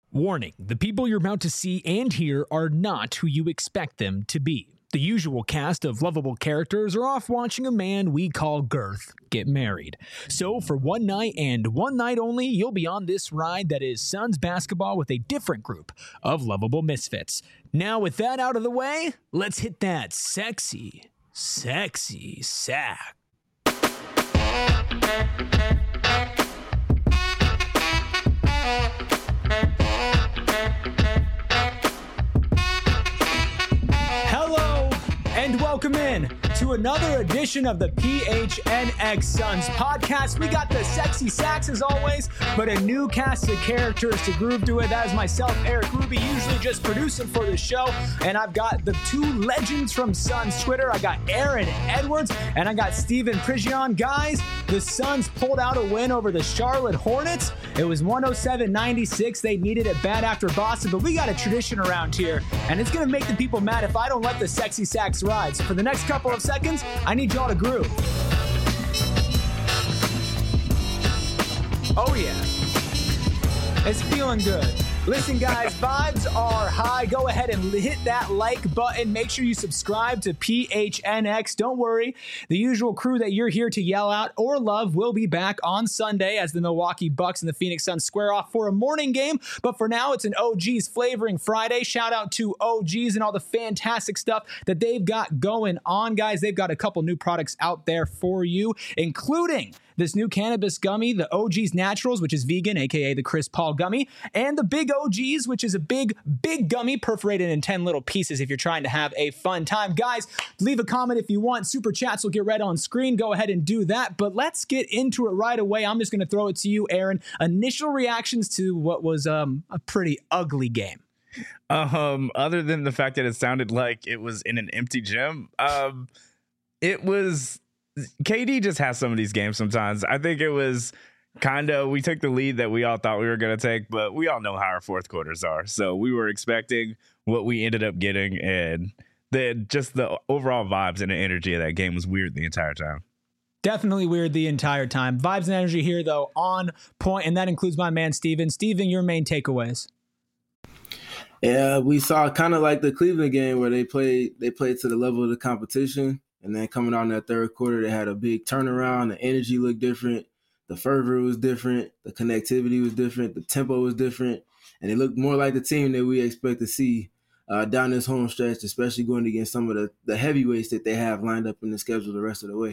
Warning, the people you're about to see and hear are not who you expect them to be. The usual cast of lovable characters are off watching a man we call Girth get married. So for one night and one night only, you'll be on this ride that is Suns basketball with a different group of lovable misfits. Now with that out of the way, let's hit that sexy sack. And welcome in to another edition of the PHNX Suns podcast. We got the sexy sacks as always, but a new cast of characters to groove to it. That is myself, Eric Ruby, usually just producing for the show. And I've got the two legends from Suns Twitter. I got Aaron Edwards and I got Steven Prigion. Guys, the Suns pulled out a win over the Charlotte Hornets. It was 107-96. They needed it bad after Boston, but we got a tradition around here, and it's going to make the people mad if I don't let the sexy sacks ride. So for the next couple of seconds, I need y'all to groove. Oh yeah, it's feeling good. Listen, guys, vibes are high. Go ahead and hit that like button. Make sure you subscribe to PHNX. Don't worry. The usual crew that you're here to yell out or love will be back on Sunday as the Milwaukee Bucks and the Phoenix Suns square off for a morning game. But for now, it's an OGs flavoring Friday. Shout out to OGs and all the fantastic stuff that they've got going on, guys. They've got a couple new products out there for you, including this new cannabis gummy, the OGs Naturals, which is vegan, aka the Chris Paul gummy, and the Big OGs, which is a big gummy perforated in 10 little pieces if you're trying to have a fun time. Guys, leave a comment if you want. Super chats will get read on screen. Go ahead and do that. But let's get into it right away. I'm just going to throw it to you, Aaron. Initial reactions to what was a pretty ugly game. Other than the fact that it sounded like it was in an empty gym, it was... KD just has some of these games sometimes. I think it was we took the lead that we all thought we were going to take, but we all know how our fourth quarters are. So we were expecting what we ended up getting, and the overall vibes and the energy of that game was weird the entire time. Definitely weird the entire time. Vibes and energy here, though, on point, and that includes my man, Steven. Steven, your main takeaways. Yeah, we saw kind of like the Cleveland game where they played to the level of the competition. And then coming out in that third quarter, they had a big turnaround. The energy looked different. The fervor was different. The connectivity was different. The tempo was different. And it looked more like the team that we expect to see down this home stretch, especially going against some of the heavyweights that they have lined up in the schedule the rest of the way.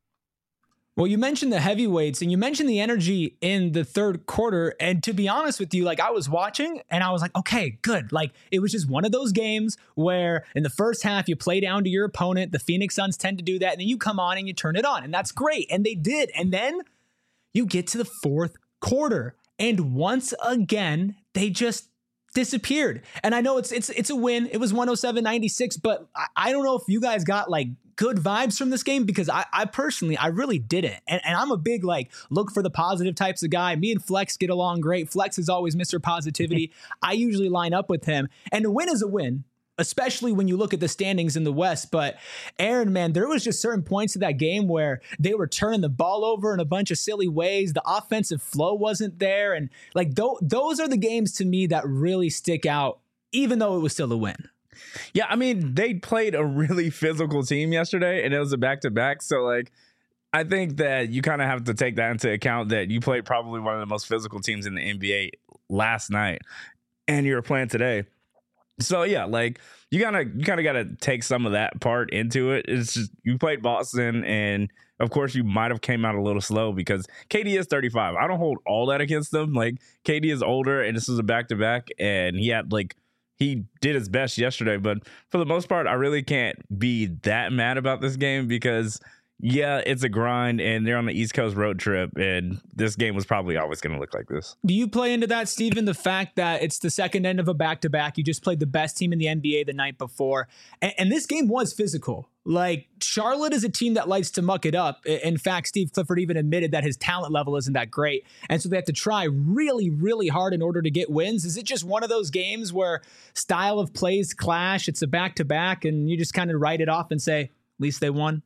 Well, you mentioned the heavyweights and you mentioned the energy in the third quarter. And to be honest with you, like I was watching and I was like, okay, good. Like it was just one of those games where in the first half you play down to your opponent. The Phoenix Suns tend to do that. And then you come on and you turn it on and that's great. And they did. And then you get to the fourth quarter and once again, they just disappeared. And I know it's a win. It was 107-96, but I don't know if you guys got like good vibes from this game because I personally, I really didn't. And I'm a big like look for the positive types of guy. Me and Flex get along great. Flex is always Mr. Positivity. I usually line up with him. And a win is a win, especially when you look at the standings in the West. But Aaron, man, there was just certain points of that game where they were turning the ball over in a bunch of silly ways. The offensive flow wasn't there. And like those are the games to me that really stick out, even though it was still a win. Yeah, I mean, they played a really physical team yesterday, and it was a back-to-back. So, like, I think that you kind of have to take that into account that you played probably one of the most physical teams in the NBA last night, and you're playing today. So, yeah, like, you kind of got to take some of that part into it. It's just you played Boston, and, of course, you might have came out a little slow because KD is 35. I don't hold all that against them. Like, KD is older, and this was a back-to-back, and he had, like, he did his best yesterday, but for the most part, I really can't be that mad about this game because, yeah, it's a grind and they're on the East Coast road trip and this game was probably always going to look like this. Do you play into that, Steven, the fact that it's the second end of a back-to-back? You just played the best team in the NBA the night before, and this game was physical. Like, Charlotte is a team that likes to muck it up. In fact, Steve Clifford even admitted that his talent level isn't that great. And so they have to try really, really hard in order to get wins. Is it just one of those games where style of plays clash, it's a back-to-back, and you just kind of write it off and say, at least they won?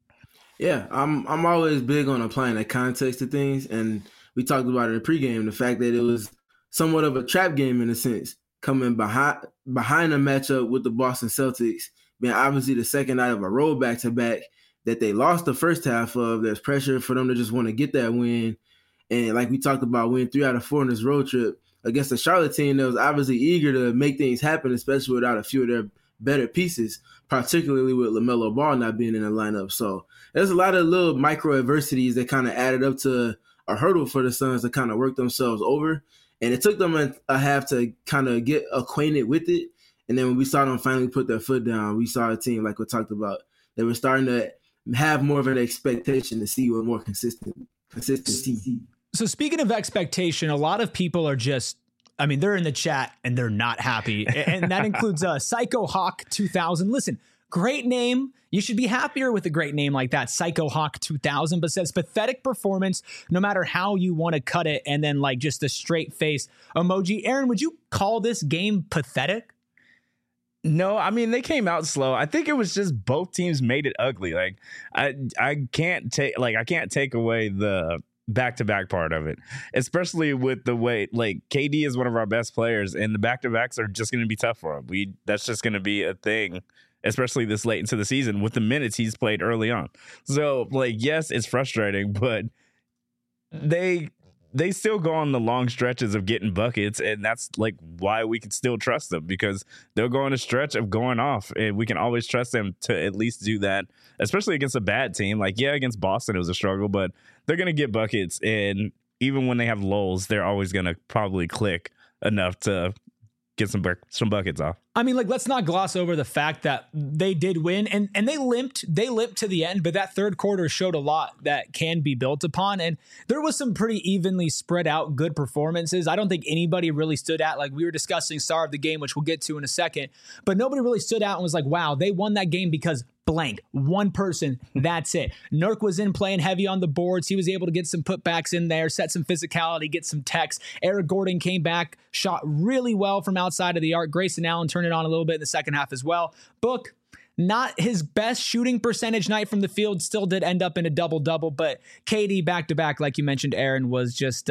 Yeah, I'm always big on applying the context to things. And we talked about it in pregame, the fact that it was somewhat of a trap game in a sense, coming behind a matchup with the Boston Celtics, being obviously the second night of a road back-to-back that they lost the first half of. There's pressure for them to just want to get that win. And like we talked about, win 3 out of 4 in this road trip against the Charlotte team that was obviously eager to make things happen, especially without a few of their better pieces, particularly with LaMelo Ball not being in the lineup. So there's a lot of little micro adversities that kind of added up to a hurdle for the Suns to kind of work themselves over. And it took them a half to kind of get acquainted with it. And then when we saw them finally put their foot down, we saw a team, like we talked about, they were starting to have more of an expectation to see with more consistency. So speaking of expectation, a lot of people are just, I mean, they're in the chat and they're not happy. And that includes Psycho Hawk 2000. Listen, great name. You should be happier with a great name like that, Psycho Hawk 2000, but says pathetic performance, no matter how you want to cut it. And then like just a straight face emoji. Aaron, would you call this game pathetic? No, I mean, they came out slow. I think it was just both teams made it ugly. Like I can't take away the back-to-back part of it, especially with the way like KD is one of our best players and the back-to-backs are just going to be tough for him. That's just going to be a thing, especially this late into the season with the minutes he's played early on. So like, yes, it's frustrating, but they still go on the long stretches of getting buckets, and that's like why we can still trust them, because they'll go on a stretch of going off, and we can always trust them to at least do that, especially against a bad team. Like, yeah, against Boston it was a struggle, but they're going to get buckets, and even when they have lulls, they're always going to probably click enough to get some buckets off. I mean, like, let's not gloss over the fact that they did win and they limped to the end, but that third quarter showed a lot that can be built upon. And there was some pretty evenly spread out good performances. I don't think anybody really stood out. Like we were discussing star of the game, which we'll get to in a second, but nobody really stood out and was like, wow, they won that game because blank, one person, that's it. Nurk was in playing heavy on the boards. He was able to get some putbacks in there, set some physicality, get some techs. Eric Gordon came back, shot really well from outside of the arc. Grayson Allen turned it on a little bit in the second half as well. Book, not his best shooting percentage night from the field, still did end up in a double-double, but KD back-to-back, like you mentioned, Aaron, was just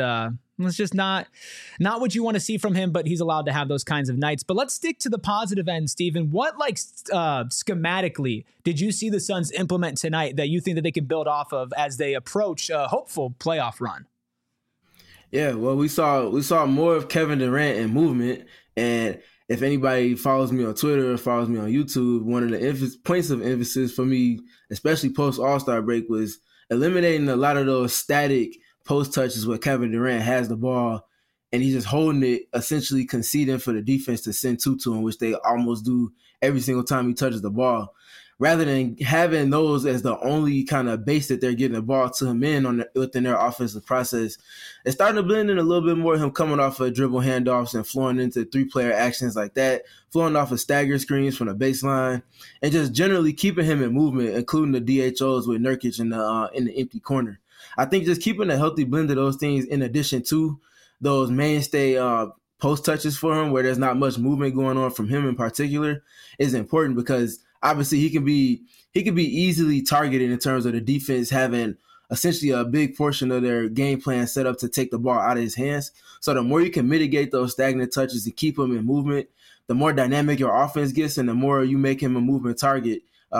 not what you want to see from him, but he's allowed to have those kinds of nights. But let's stick to the positive end, Stephen. What, like, schematically did you see the Suns implement tonight that you think that they can build off of as they approach a hopeful playoff run? Yeah, well, we saw more of Kevin Durant in movement, and if anybody follows me on Twitter or follows me on YouTube, one of the points of emphasis for me, especially post All-Star break, was eliminating a lot of those static post touches where Kevin Durant has the ball and he's just holding it, essentially conceding for the defense to send two to him, which they almost do every single time he touches the ball. Rather than having those as the only kind of base that they're getting the ball to him within their offensive process, it's starting to blend in a little bit more, him coming off of dribble handoffs and flowing into three-player actions like that, flowing off of stagger screens from the baseline, and just generally keeping him in movement, including the DHOs with Nurkic in the empty corner. I think just keeping a healthy blend of those things in addition to those mainstay post touches for him where there's not much movement going on from him in particular is important, because obviously he can be easily targeted in terms of the defense having essentially a big portion of their game plan set up to take the ball out of his hands. So the more you can mitigate those stagnant touches and keep him in movement, the more dynamic your offense gets, and the more you make him a movement target.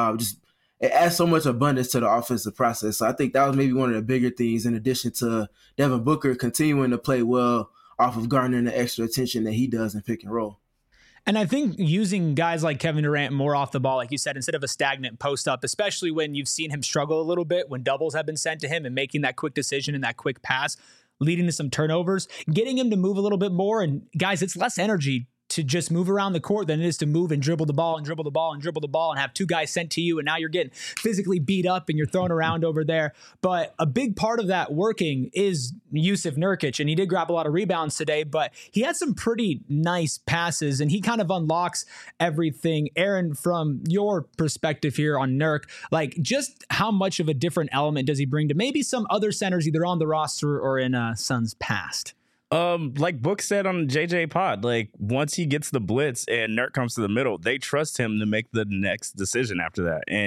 It adds so much abundance to the offensive process. So I think that was maybe one of the bigger things, in addition to Devin Booker continuing to play well off of garnering the extra attention that he does in pick and roll. And I think using guys like Kevin Durant more off the ball, like you said, instead of a stagnant post up, especially when you've seen him struggle a little bit when doubles have been sent to him and making that quick decision and that quick pass, leading to some turnovers, getting him to move a little bit more. And guys, it's less energy to just move around the court than it is to move and dribble the ball and dribble the ball and dribble the ball and have two guys sent to you. And now you're getting physically beat up and you're thrown around over there. But a big part of that working is Jusuf Nurkic. And he did grab a lot of rebounds today, but he had some pretty nice passes and he kind of unlocks everything. Aaron, from your perspective here on Nurk, like just how much of a different element does he bring to maybe some other centers either on the roster or in Suns past? Like Book said on JJ Pod, like once he gets the blitz and Nurk comes to the middle, they trust him to make the next decision after that. And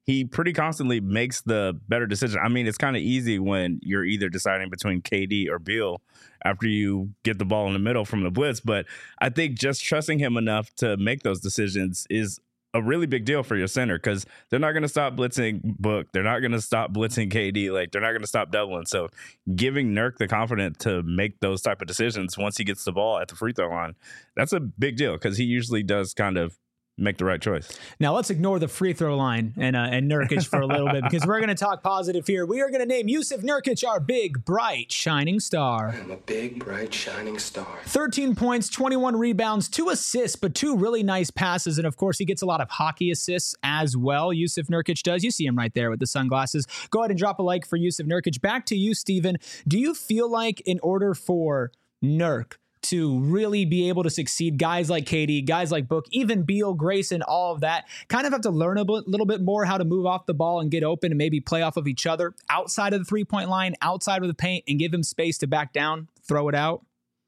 he pretty constantly makes the better decision. I mean, it's kind of easy when you're either deciding between KD or Beal after you get the ball in the middle from the blitz. But I think just trusting him enough to make those decisions is a really big deal for your center, because they're not going to stop blitzing Book. They're not going to stop blitzing KD. Like, they're not going to stop doubling. So giving Nurk the confidence to make those type of decisions once he gets the ball at the free throw line, that's a big deal, because he usually does kind of make the right choice. Now let's ignore the free throw line and Nurkic for a little bit, because we're going to talk positive here. We are going to name Jusuf Nurkic our big, bright, shining star. I'm a big, bright, shining star. 13 points, 21 rebounds, 2 assists, but 2 really nice passes. And of course, he gets a lot of hockey assists as well. Jusuf Nurkic does. You see him right there with the sunglasses. Go ahead and drop a like for Jusuf Nurkic. Back to you, Steven. Do you feel like in order for Nurk to really be able to succeed, guys like KD, guys like Book, even Beal, Grayson, all of that, kind of have to learn a little bit more how to move off the ball and get open and maybe play off of each other outside of the three-point line, outside of the paint, and give him space to back down, throw it out?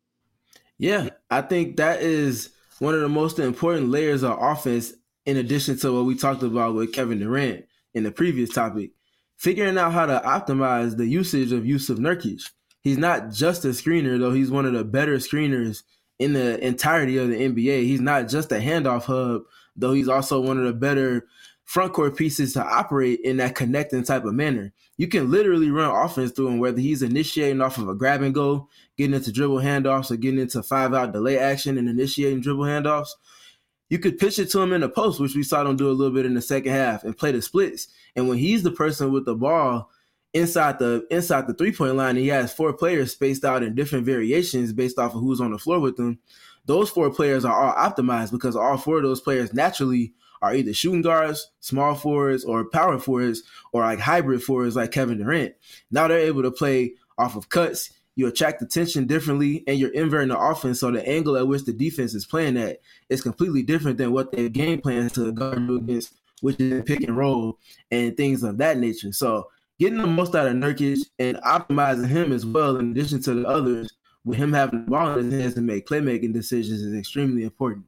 Yeah, I think that is one of the most important layers of offense, in addition to what we talked about with Kevin Durant in the previous topic. Figuring out how to optimize the usage of Jusuf Nurkic. He's not just a screener, though. He's one of the better screeners in the entirety of the NBA. He's not just a handoff hub, though he's also one of the better front court pieces to operate in that connecting type of manner. You can literally run offense through him, whether he's initiating off of a grab and go, getting into dribble handoffs, or getting into 5-out delay action and initiating dribble handoffs. You could pitch it to him in the post, which we saw him do a little bit in the second half, and play the splits. And when he's the person with the ball inside the three-point line, he has 4 players spaced out in different variations based off of who's on the floor with them. Those 4 players are all optimized because all 4 of those players naturally are either shooting guards, small forwards, or power forwards, or like hybrid forwards like Kevin Durant. Now they're able to play off of cuts. You attract attention differently, and you're inverting the offense, so the angle at which the defense is playing at is completely different than what their game plans to guard you against, which is pick and roll and things of that nature. So getting the most out of Nurkic and optimizing him as well, in addition to the others, with him having the ball in his hands to make playmaking decisions, is extremely important.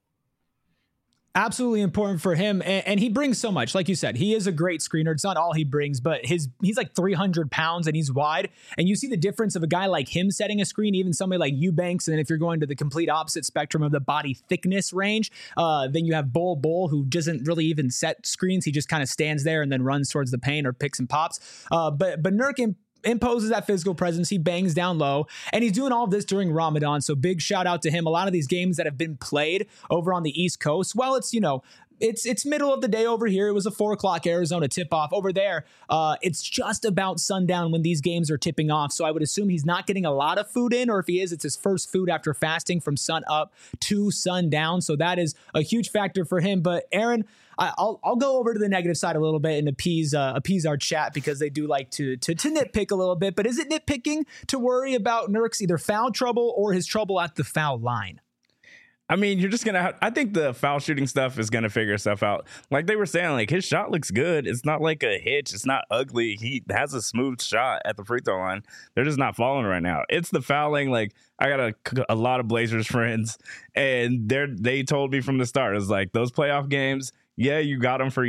Absolutely important for him. And he brings so much. Like you said, he is a great screener. It's not all he brings, but he's like 300 pounds and he's wide. And you see the difference of a guy like him setting a screen, even somebody like Eubanks. And if you're going to the complete opposite spectrum of the body thickness range, then you have Bol, who doesn't really even set screens. He just kind of stands there and then runs towards the paint or picks and pops. But Nurk imposes that physical presence. He bangs down low, and he's doing all of this during Ramadan. So big shout out to him. A lot of these games that have been played over on the East Coast, well, it's middle of the day over here. It was a 4:00 Arizona tip off over there. It's just about sundown when these games are tipping off. So I would assume he's not getting a lot of food in, or if he is, it's his first food after fasting from sun up to sundown. So that is a huge factor for him. But Aaron, I'll go over to the negative side a little bit and appease our chat, because they do like to nitpick a little bit. But is it nitpicking to worry about Nurk's either foul trouble or his trouble at the foul line? I mean, you're just going to I think the foul shooting stuff is going to figure stuff out. Like they were saying, like his shot looks good. It's not like a hitch. It's not ugly. He has a smooth shot at the free throw line. They're just not falling right now. It's the fouling. Like I got a lot of Blazers friends, and they told me from the start, it was like those playoff games, yeah, you got them for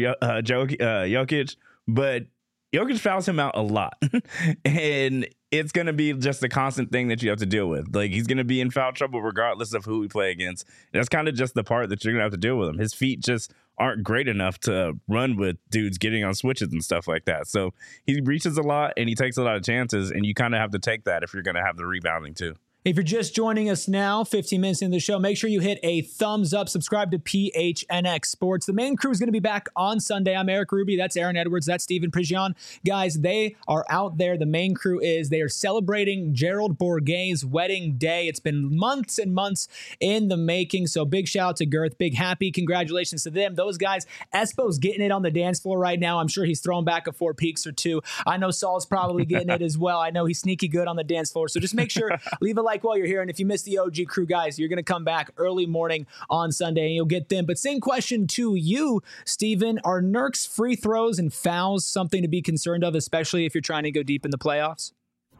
Jokic, but Jokic fouls him out a lot. And it's going to be just a constant thing that you have to deal with. Like, he's going to be in foul trouble regardless of who we play against. And that's kind of just the part that you're going to have to deal with him. His feet just aren't great enough to run with dudes getting on switches and stuff like that. So he reaches a lot and he takes a lot of chances, and you kind of have to take that if you're going to have the rebounding too. If you're just joining us now, 15 minutes into the show, make sure you hit a thumbs up, subscribe to PHNX Sports. The main crew is going to be back on Sunday. I'm Eric Ruby. That's Aaron Edwards. That's Steven Prigion. Guys, they are out there. The main crew is. They are celebrating Gerald Bourguet's wedding day. It's been months and months in the making. So big shout out to Girth. Big happy congratulations to them. Those guys, Espo's getting it on the dance floor right now. I'm sure he's throwing back a 4 peaks or 2. I know Saul's probably getting it as well. I know he's sneaky good on the dance floor. So just make sure, leave a like while you're here. And if you missed the OG crew, guys, you're going to come back early morning on Sunday and you'll get them. But same question to you, Steven. Are Nurk's free throws and fouls something to be concerned of, especially if you're trying to go deep in the playoffs?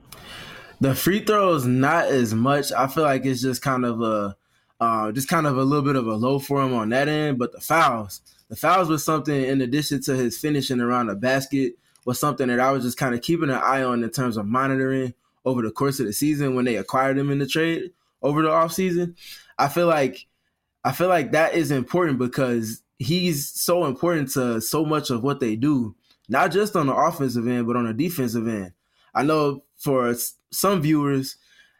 The free throws, not as much. I feel like it's just kind of a little bit of a low for him on that end. But the fouls The fouls was something, in addition to his finishing around the basket, was something that I was just kind of keeping an eye on in terms of monitoring over the course of the season when they acquired him in the trade over the offseason. I feel like that is important because he's so important to so much of what they do, not just on the offensive end, but on the defensive end. I know for some viewers,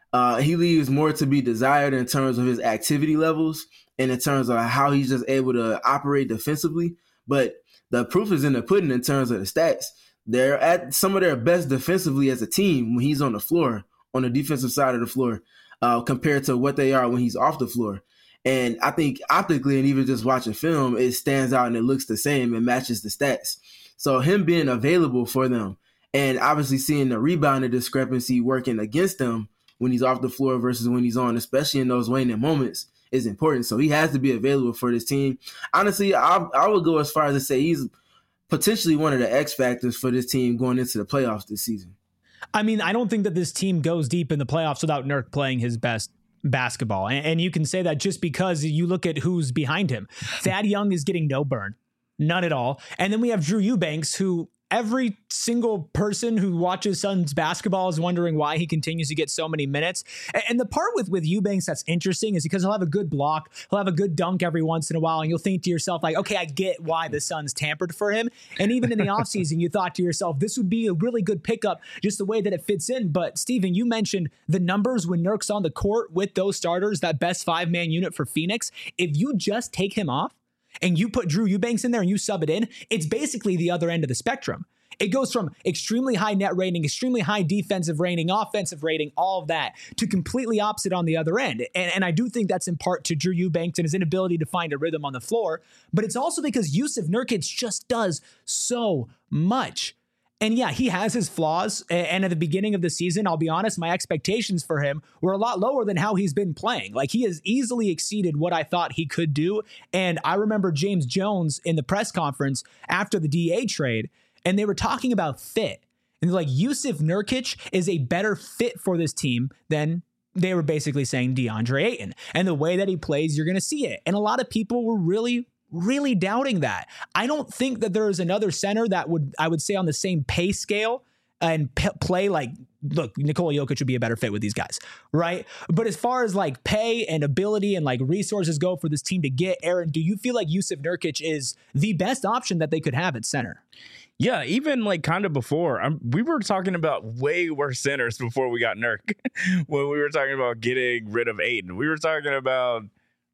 he leaves more to be desired in terms of his activity levels and in terms of how he's just able to operate defensively. But the proof is in the pudding in terms of the stats. They're at some of their best defensively as a team when he's on the floor, on the defensive side of the floor, compared to what they are when he's off the floor. And I think optically, and even just watching film, it stands out and it looks the same and matches the stats. So him being available for them and obviously seeing the rebounding discrepancy working against them when he's off the floor versus when he's on, especially in those waning moments, is important. So he has to be available for this team. Honestly, I would go as far as to say he's potentially one of the X factors for this team going into the playoffs this season. I mean, I don't think that this team goes deep in the playoffs without Nurk playing his best basketball. And you can say that just because you look at who's behind him. Thad Young is getting no burn, none at all. And then we have Drew Eubanks, who every single person who watches Suns basketball is wondering why he continues to get so many minutes. And the part with Eubanks that's interesting is because he'll have a good block, he'll have a good dunk every once in a while, and you'll think to yourself, like, okay, I get why the Suns tampered for him. And even in the offseason, you thought to yourself, this would be a really good pickup, just the way that it fits in. But Steven, you mentioned the numbers when Nurk's on the court with those starters, that best 5-man unit for Phoenix. If you just take him off, and you put Drew Eubanks in there and you sub it in, it's basically the other end of the spectrum. It goes from extremely high net rating, extremely high defensive rating, offensive rating, all of that, to completely opposite on the other end. And I do think that's in part to Drew Eubanks and his inability to find a rhythm on the floor, but it's also because Jusuf Nurkic just does so much. And yeah, he has his flaws. And at the beginning of the season, I'll be honest, my expectations for him were a lot lower than how he's been playing. Like, he has easily exceeded what I thought he could do. And I remember James Jones in the press conference after the DA trade, and they were talking about fit. And they're like, Jusuf Nurkic is a better fit for this team than they were basically saying DeAndre Ayton. And the way that he plays, you're going to see it. And a lot of people were really doubting that. I don't think that there is another center that I would say on the same pay scale and play like, look, Nikola Jokic would be a better fit with these guys, right? But as far as like pay and ability and like resources go for this team to get, Aaron, do you feel like Jusuf Nurkic is the best option that they could have at center? Yeah, even like kind of before, we were talking about way worse centers before we got Nurk. When we were talking about getting rid of Ayton, we were talking about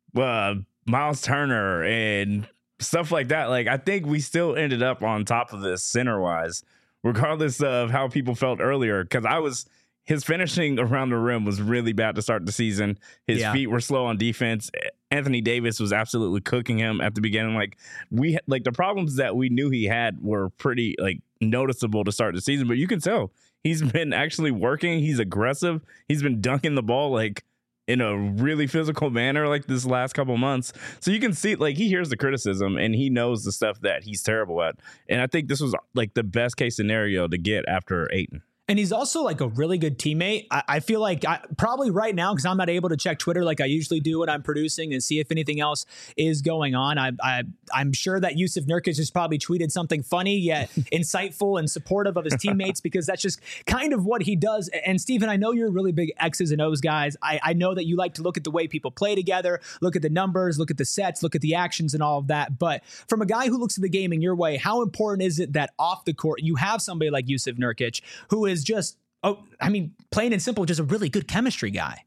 Miles Turner and stuff like that. Like, I think we still ended up on top of this center wise, regardless of how people felt earlier. Because his finishing around the rim was really bad to start the season. His feet were slow on defense. Anthony Davis was absolutely cooking him at the beginning. Like, the problems that we knew he had were pretty like noticeable to start the season. But you can tell he's been actually working. He's aggressive. He's been dunking the ball like in a really physical manner like this last couple months. So you can see like he hears the criticism and he knows the stuff that he's terrible at. And I think this was like the best case scenario to get after Ayton. And he's also like a really good teammate. I feel like probably right now, because I'm not able to check Twitter like I usually do when I'm producing and see if anything else is going on. I'm sure that Jusuf Nurkic has probably tweeted something funny yet insightful and supportive of his teammates, because that's just kind of what he does. And Steven, I know you're really big X's and O's guys. I know that you like to look at the way people play together, look at the numbers, look at the sets, look at the actions and all of that. But from a guy who looks at the game in your way, how important is it that off the court you have somebody like Jusuf Nurkic who is just, plain and simple, just a really good chemistry guy?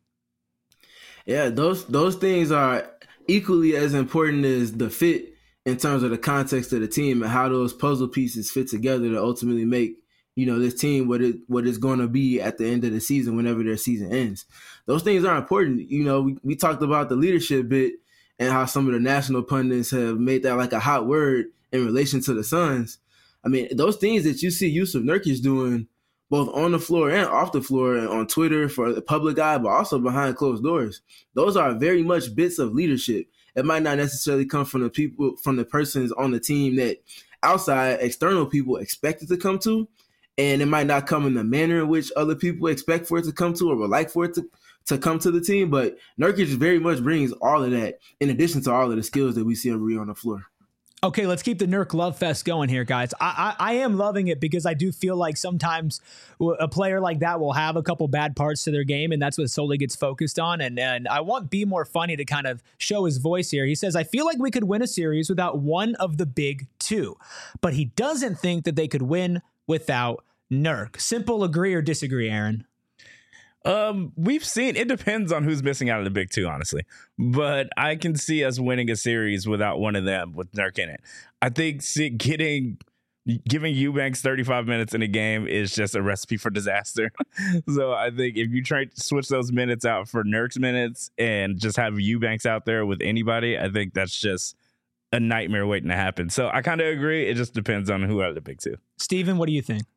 Yeah, those things are equally as important as the fit in terms of the context of the team and how those puzzle pieces fit together to ultimately make, this team what it's going to be at the end of the season whenever their season ends. Those things are important. We talked about the leadership bit and how some of the national pundits have made that like a hot word in relation to the Suns. I mean, those things that you see Jusuf Nurkic doing both on the floor and off the floor and on Twitter for the public eye, but also behind closed doors, those are very much bits of leadership. It might not necessarily come from the persons on the team that outside external people expect it to come to. And it might not come in the manner in which other people expect for it to come to or would like for it to come to the team. But Nurkic very much brings all of that in addition to all of the skills that we see him on the floor. Okay, let's keep the Nurk love fest going here, guys. I am loving it because I do feel like sometimes a player like that will have a couple bad parts to their game, and that's what Sully gets focused on. And I want Be More Funny to kind of show his voice here. He says, I feel like we could win a series without one of the big two, but he doesn't think that they could win without Nurk. Simple agree or disagree, Aaron? We've seen, it depends on who's missing out of the big two, honestly, but I can see us winning a series without one of them with Nurk in it. I think giving Eubanks 35 minutes in a game is just a recipe for disaster. So I think if you try to switch those minutes out for Nurk's minutes and just have Eubanks out there with anybody, I think that's just a nightmare waiting to happen. So I kind of agree. It just depends on who out of the big two. Steven, what do you think?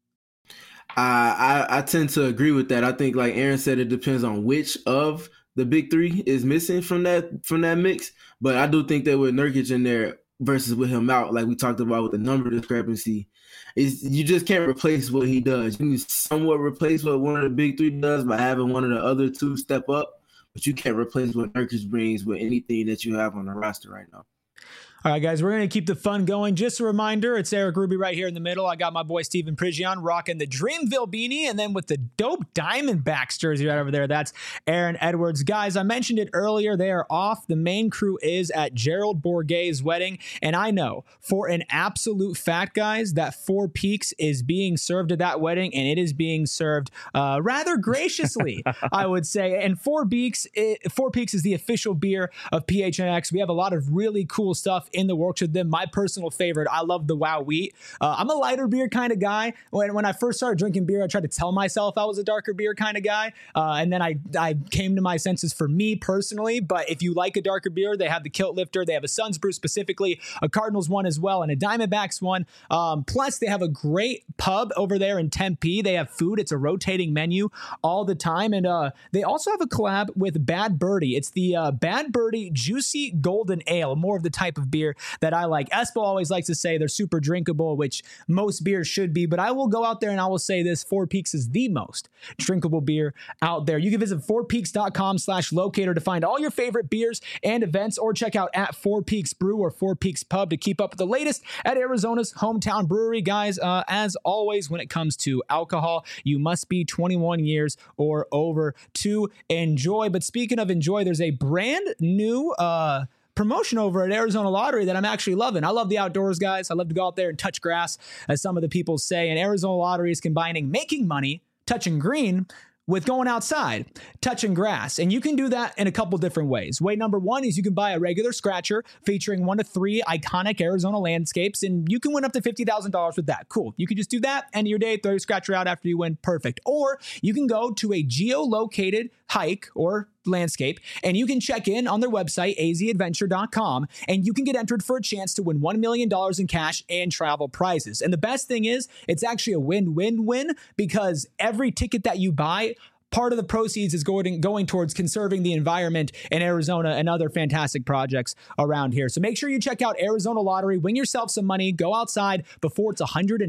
I tend to agree with that. I think, like Aaron said, it depends on which of the big three is missing from that mix. But I do think that with Nurkic in there versus with him out, like we talked about with the number discrepancy, you just can't replace what he does. You can somewhat replace what one of the big three does by having one of the other two step up, but you can't replace what Nurkic brings with anything that you have on the roster right now. All right, guys, we're going to keep the fun going. Just a reminder, it's Eric Ruby right here in the middle. I got my boy Steven Prigion rocking the Dreamville beanie, and then with the dope Diamondbacks jersey right over there, that's Aaron Edwards. Guys, I mentioned it earlier. They are off. The main crew is at Gerald Bourguet's wedding, and I know for an absolute fact, guys, that Four Peaks is being served at that wedding, and it is being served rather graciously, I would say. And Four Peaks is the official beer of PHNX. We have a lot of really cool stuff in the works with them. My personal favorite, I love the Wow Wheat. I'm a lighter beer kind of guy. When I first started drinking beer, I tried to tell myself I was a darker beer kind of guy. And then I came to my senses for me personally. But if you like a darker beer, they have the Kilt Lifter. They have a Suns Brew specifically, a Cardinals one as well, and a Diamondbacks one. Plus, they have a great pub over there in Tempe. They have food. It's a rotating menu all the time. And they also have a collab with Bad Birdie. It's the Bad Birdie Juicy Golden Ale, more of the type of beer that I like. Espo always likes to say they're super drinkable, which most beers should be, but I will go out there and I will say this: Four Peaks is the most drinkable beer out there. You can visit fourpeaks.com/locator to find all your favorite beers and events, or check out at Four Peaks Brew or Four Peaks Pub to keep up with the latest at Arizona's hometown brewery. Guys, as always, when it comes to alcohol, you must be 21 years or over to enjoy. But speaking of enjoy, there's a brand new promotion over at Arizona Lottery that I'm actually loving. I love the outdoors, guys. I love to go out there and touch grass, as some of the people say. And Arizona Lottery is combining making money, touching green, with going outside, touching grass. And you can do that in a couple different ways. Way number one is you can buy a regular scratcher featuring 1 to 3 iconic Arizona landscapes, and you can win up to $50,000 with that. Cool. You can just do that, end of your day, throw your scratcher out after you win. Perfect. Or you can go to a geolocated hike or landscape, and you can check in on their website, azadventure.com, and you can get entered for a chance to win $1 million in cash and travel prizes. And the best thing is, it's actually a win-win-win, because every ticket that you buy, part of the proceeds is going towards conserving the environment in Arizona and other fantastic projects around here. So make sure you check out Arizona Lottery, win yourself some money, go outside before it's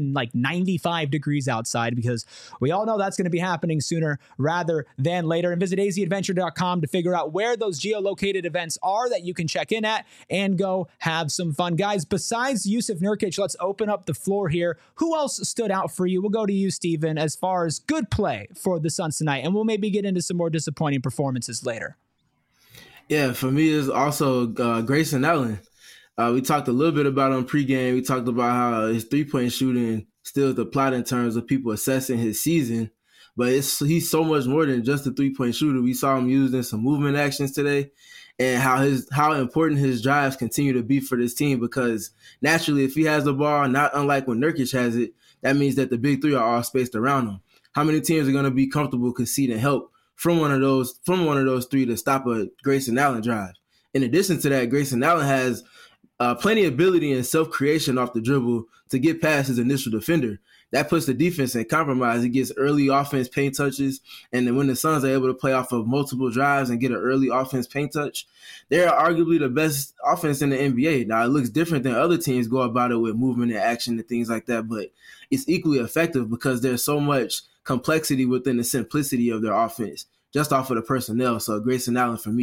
195 degrees outside, because we all know that's going to be happening sooner rather than later. And visit azadventure.com to figure out where those geolocated events are that you can check in at and go have some fun. Guys, besides Jusuf Nurkic, let's open up the floor here. Who else stood out for you? We'll go to you, Steven, as far as good play for the Suns tonight, and we'll maybe get into some more disappointing performances later. Yeah, for me, it's also Grayson Allen. We talked a little bit about him pregame. We talked about how his three-point shooting still is the plot in terms of people assessing his season, but he's so much more than just a three-point shooter. We saw him using some movement actions today, and how important his drives continue to be for this team, because naturally, if he has the ball, not unlike when Nurkic has it, that means that the big three are all spaced around him. How many teams are going to be comfortable conceding help from one of those three to stop a Grayson Allen drive? In addition to that, Grayson Allen has plenty of ability and self-creation off the dribble to get past his initial defender. That puts the defense in compromise. He gets early offense paint touches, and then when the Suns are able to play off of multiple drives and get an early offense paint touch, they're arguably the best offense in the NBA. Now, it looks different than other teams go about it with movement and action and things like that, but it's equally effective because there's so much complexity within the simplicity of their offense, just off of the personnel. So Grayson Allen for me.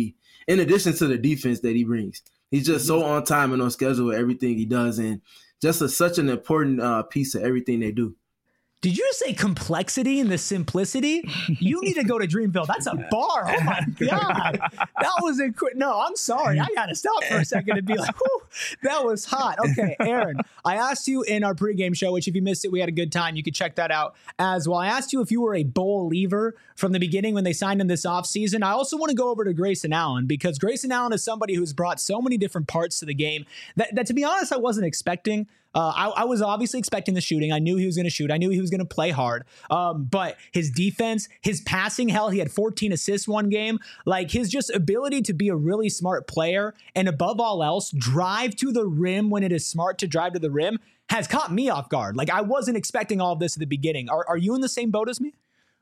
in addition to the defense that he brings. He's just so on time and on schedule with everything he does, and just such an important piece of everything they do. Did you say complexity and the simplicity? You need to go to Dreamville. That's a bar. Oh my God. That was no, I'm sorry. I got to stop for a second and be like, whew, that was hot. Okay, Aaron, I asked you in our pregame show, which if you missed it, we had a good time. You could check that out as well. I asked you if you were a Bowl-liever from the beginning when they signed him this offseason. I also want to go over to Grayson Allen, because Grayson Allen is somebody who's brought so many different parts to the game that to be honest, I wasn't expecting. I was obviously expecting the shooting. I knew he was going to shoot. I knew he was going to play hard. But his defense, his passing, hell, he had 14 assists one game. Like, his just ability to be a really smart player and above all else, drive to the rim when it is smart to drive to the rim has caught me off guard. Like, I wasn't expecting all of this at the beginning. Are you in the same boat as me?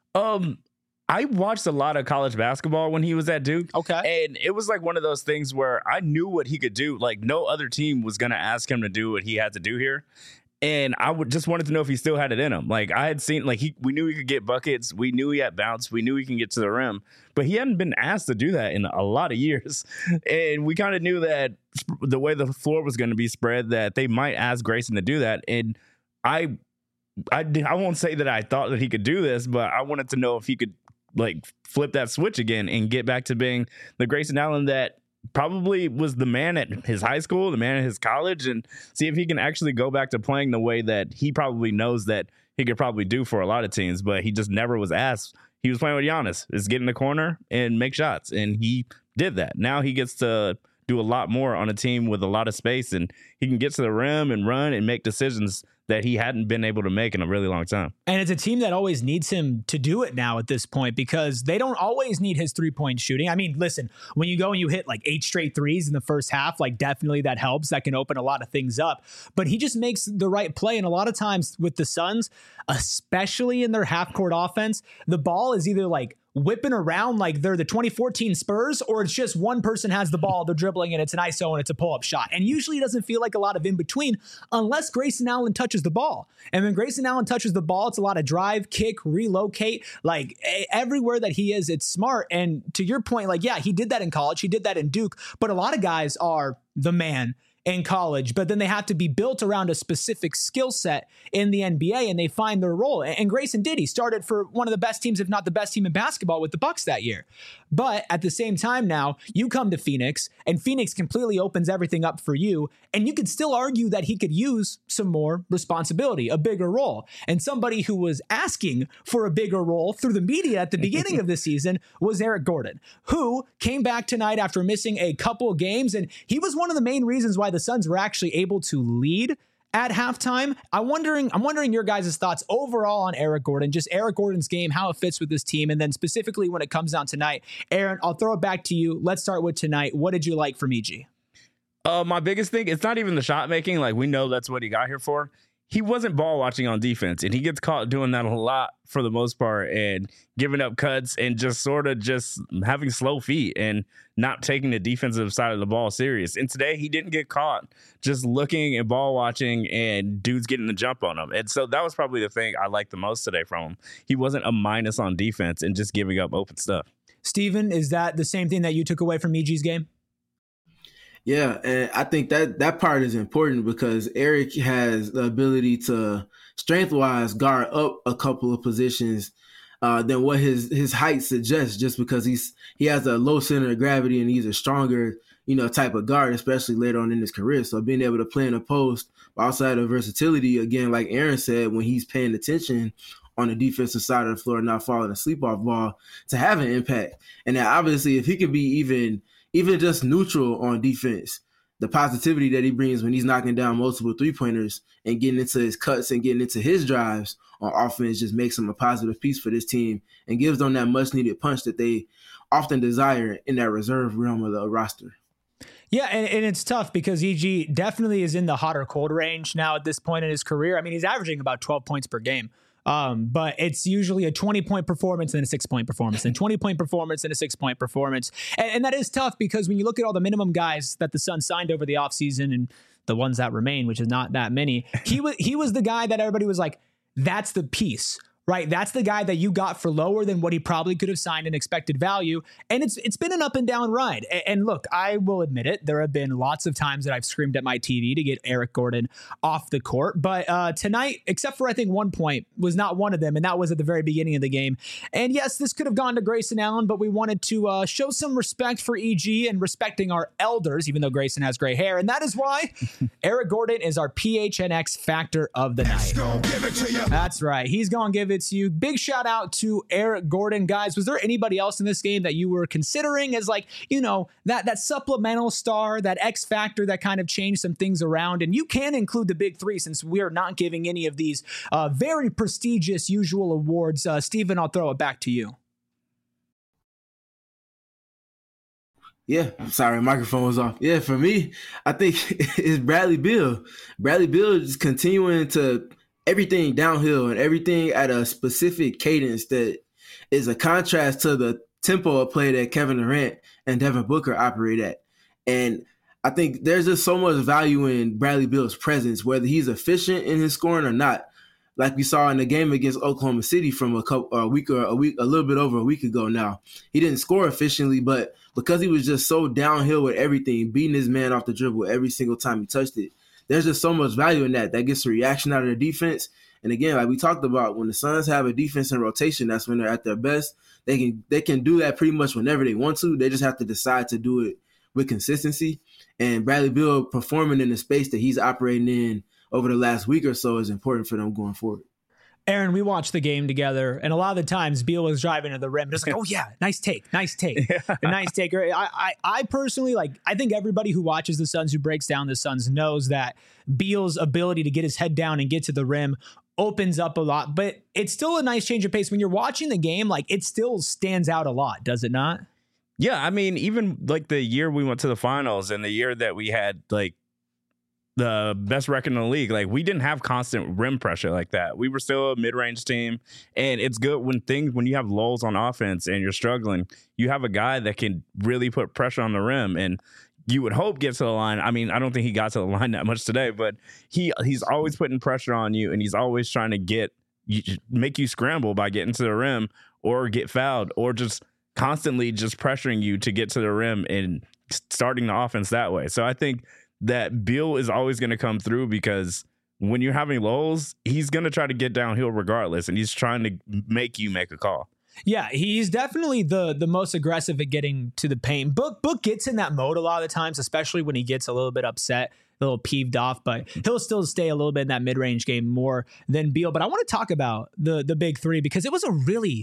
I watched a lot of college basketball when he was at Duke. Okay. And it was like one of those things where I knew what he could do. Like, no other team was going to ask him to do what he had to do here. And I just wanted to know if he still had it in him. Like, I had seen, like, we knew he could get buckets. We knew he had bounce. We knew he can get to the rim. But he hadn't been asked to do that in a lot of years. And we kind of knew that the way the floor was going to be spread, that they might ask Grayson to do that. And I won't say that I thought that he could do this, but I wanted to know if he could, like, flip that switch again and get back to being the Grayson Allen that probably was the man at his high school, the man at his college, and see if he can actually go back to playing the way that he probably knows that he could probably do for a lot of teams, but he just never was asked. He was playing with Giannis, is get in the corner and make shots, and he did that. Now he gets to do a lot more on a team with a lot of space, and he can get to the rim and run and make decisions that he hadn't been able to make in a really long time. And it's a team that always needs him to do it now at this point, because they don't always need his 3-point shooting. I mean, listen, when you go and you hit like 8 straight threes in the first half, like, definitely that helps. That can open a lot of things up. But he just makes the right play. And a lot of times with the Suns, especially in their half-court offense, the ball is either like whipping around like they're the 2014 Spurs, or it's just one person has the ball, they're dribbling, and it's an ISO and it's a pull-up shot. And usually it doesn't feel like a lot of in-between unless Grayson Allen touches the ball. And when Grayson Allen touches the ball, it's a lot of drive, kick, relocate. Like, everywhere that he is, it's smart. And to your point, like, yeah, he did that in college. He did that in Duke. But a lot of guys are the man in college, but then they have to be built around a specific skill set in the NBA, and they find their role. And Grayson did. He started for one of the best teams, if not the best team in basketball, with the Bucks that year. But at the same time now, you come to Phoenix, and Phoenix completely opens everything up for you, and you could still argue that he could use some more responsibility, a bigger role. And somebody who was asking for a bigger role through the media at the beginning of the season was Eric Gordon, who came back tonight after missing a couple of games, and he was one of the main reasons why the Suns were actually able to lead at halftime. I'm wondering your guys' thoughts overall on Eric Gordon, just Eric Gordon's game, how it fits with this team, and then specifically when it comes down tonight. Aaron, I'll throw it back to you. Let's start with tonight. What did you like from EG? My biggest thing, it's not even the shot making. Like, we know that's what he got here for. He wasn't ball watching on defense, and he gets caught doing that a lot for the most part, and giving up cuts and just sort of just having slow feet and not taking the defensive side of the ball serious. And today he didn't get caught just looking and ball watching and dudes getting the jump on him. And so that was probably the thing I liked the most today from him. He wasn't a minus on defense and just giving up open stuff. Steven, is that the same thing that you took away from EG's game? Yeah, and I think that part is important because Eric has the ability to strength-wise guard up a couple of positions than what his height suggests, just because he has a low center of gravity and he's a stronger, type of guard, especially later on in his career. So being able to play in a post, but also have the versatility, again, like Aaron said, when he's paying attention on the defensive side of the floor, not falling asleep off ball, to have an impact. And then obviously if he could be even just neutral on defense, the positivity that he brings when he's knocking down multiple three-pointers and getting into his cuts and getting into his drives on offense just makes him a positive piece for this team and gives them that much-needed punch that they often desire in that reserve realm of the roster. Yeah, and it's tough because EG definitely is in the hot or cold range now at this point in his career. I mean, he's averaging about 12 points per game. But it's usually a 20-point performance and a 6-point performance, and 20-point performance and a 6-point performance. And that is tough because when you look at all the minimum guys that the Suns signed over the offseason and the ones that remain, which is not that many, he was the guy that everybody was like, that's the piece, right? That's the guy that you got for lower than what he probably could have signed in expected value. And it's been an up and down ride. And look, I will admit it. There have been lots of times that I've screamed at my TV to get Eric Gordon off the court. But tonight, except for I think 1 point, was not one of them. And that was at the very beginning of the game. And yes, this could have gone to Grayson Allen, but we wanted to show some respect for EG and respecting our elders, even though Grayson has gray hair. And that is why Eric Gordon is our PHNX factor of the night. That's right. He's going to give it to you. Big shout out to Eric Gordon. Guys, was there anybody else in this game that you were considering as like, you know, that supplemental star, that X factor that kind of changed some things around? And you can include the big three since we are not giving any of these very prestigious usual awards. Steven, I'll throw it back to you. Yeah, sorry, microphone was off. Yeah, for me, I think it's Bradley Beal. Bradley Beal is continuing to everything downhill and everything at a specific cadence that is a contrast to the tempo of play that Kevin Durant and Devin Booker operate at. And I think there's just so much value in Bradley Beal's presence, whether he's efficient in his scoring or not. Like we saw in the game against Oklahoma City from a little bit over a week ago now. He didn't score efficiently, but because he was just so downhill with everything, beating his man off the dribble every single time he touched it, there's just so much value in that. That gets a reaction out of the defense. And again, like we talked about, when the Suns have a defense in rotation, that's when they're at their best. They can do that pretty much whenever they want to. They just have to decide to do it with consistency. And Bradley Beal performing in the space that he's operating in over the last week or so is important for them going forward. Aaron, we watched the game together, and a lot of the times Beal was driving to the rim, just like, oh yeah, nice take. Yeah. A nice take. I personally, I think everybody who watches the Suns, who breaks down the Suns, knows that Beal's ability to get his head down and get to the rim opens up a lot, but it's still a nice change of pace. When you're watching the game, it still stands out a lot, does it not? Yeah, I mean, even the year we went to the finals and the year that we had the best record in the league, we didn't have constant rim pressure like that. We were still a mid-range team, and it's good when you have lulls on offense and you're struggling, you have a guy that can really put pressure on the rim, and you would hope get to the line. I mean, I don't think he got to the line that much today, but he's always putting pressure on you, and he's always trying to make you scramble by getting to the rim or get fouled or just constantly just pressuring you to get to the rim and starting the offense that way. So I think that Beal is always going to come through, because when you're having lulls, he's going to try to get downhill regardless, and he's trying to make you make a call. Yeah, he's definitely the most aggressive at getting to the paint. Book gets in that mode a lot of the times, especially when he gets a little bit upset, a little peeved off, but he'll still stay a little bit in that mid-range game more than Beal. But I want to talk about the big three, because it was a really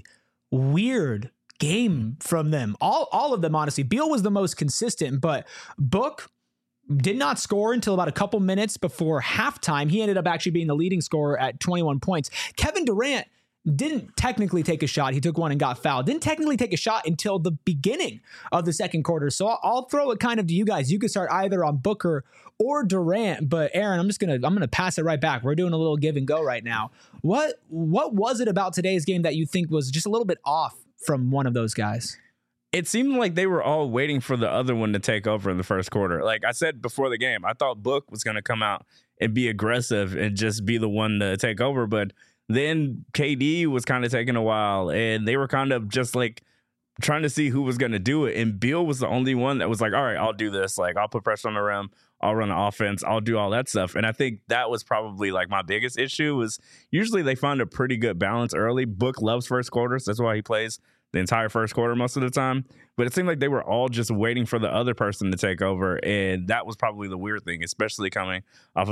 weird game from them. All of them, honestly. Beal was the most consistent, but Book did not score until about a couple minutes before halftime. He ended up actually being the leading scorer at 21 points. Kevin Durant didn't technically take a shot. He took one and got fouled. Didn't technically take a shot until the beginning of the second quarter. So I'll throw it kind of to you guys. You could start either on Booker or Durant, but Aaron, I'm gonna pass it right back. We're doing a little give and go right now. What was it about today's game that you think was just a little bit off from one of those guys? It seemed like they were all waiting for the other one to take over in the first quarter. Like I said before the game, I thought Book was going to come out and be aggressive and just be the one to take over. But then KD was kind of taking a while, and they were kind of just trying to see who was going to do it. And Beal was the only one that was like, all right, I'll do this. I'll put pressure on the rim. I'll run the offense. I'll do all that stuff. And I think that was probably my biggest issue was usually they find a pretty good balance early. Book loves first quarters. That's why he plays the entire first quarter most of the time. But it seemed like they were all just waiting for the other person to take over. And that was probably the weird thing, especially coming off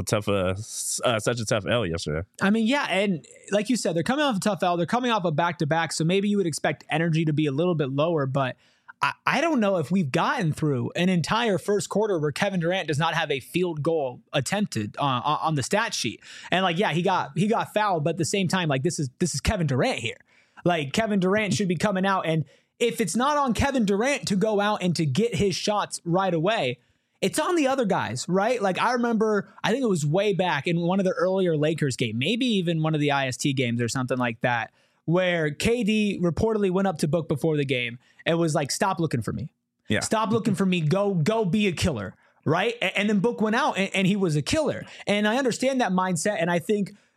such a tough L yesterday. I mean, yeah. And like you said, they're coming off a tough L. They're coming off a back-to-back. So maybe you would expect energy to be a little bit lower. But I don't know if we've gotten through an entire first quarter where Kevin Durant does not have a field goal attempted on the stat sheet. And he got fouled. But at the same time, this is Kevin Durant here. Kevin Durant should be coming out, and if it's not on Kevin Durant to go out and to get his shots right away, it's on the other guys, right? I remember, I think it was way back in one of the earlier Lakers game, maybe even one of the IST games or something like that, where KD reportedly went up to Book before the game and was like, stop looking for me. Yeah. Stop looking for me. Go be a killer, right? And then Book went out and he was a killer. And I understand that mindset, and I think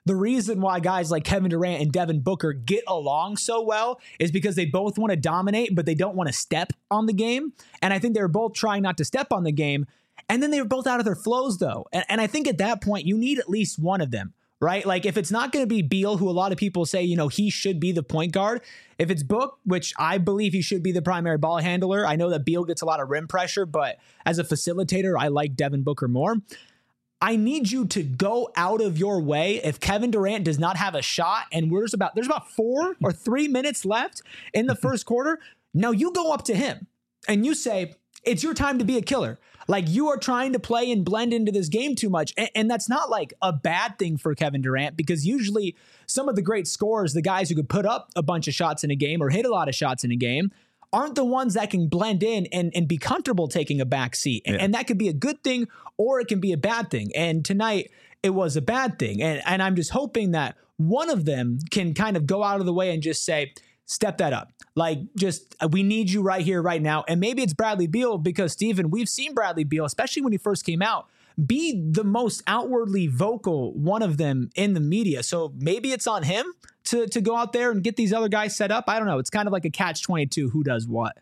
the reason why guys like Kevin Durant and Devin Booker get along so well is because they both want to dominate, but they don't want to step on the game. And I think they were both trying not to step on the game. And then they were both out of their flows, though. And I think at that point, you need at least one of them, right? Like if it's not going to be Beal, who a lot of people say, he should be the point guard. If it's Book, which I believe he should be the primary ball handler. I know that Beal gets a lot of rim pressure, but as a facilitator, I like Devin Booker more. I need you to go out of your way if Kevin Durant does not have a shot and there's about 4 or 3 minutes left in the first quarter. Now you go up to him and you say, it's your time to be a killer. Like you are trying to play and blend into this game too much. And that's not like a bad thing for Kevin Durant, because usually some of the great scorers, the guys who could put up a bunch of shots in a game or hit a lot of shots in a game, aren't the ones that can blend in and be comfortable taking a back seat. And that could be a good thing or it can be a bad thing. And tonight it was a bad thing. And I'm just hoping that one of them can kind of go out of the way and just say, step that up. Like we need you right here, right now. And maybe it's Bradley Beal, because Steven, we've seen Bradley Beal, especially when he first came out, be the most outwardly vocal one of them in the media. So maybe it's on him to go out there and get these other guys set up. I don't know. It's kind of like a catch-22. Who does what?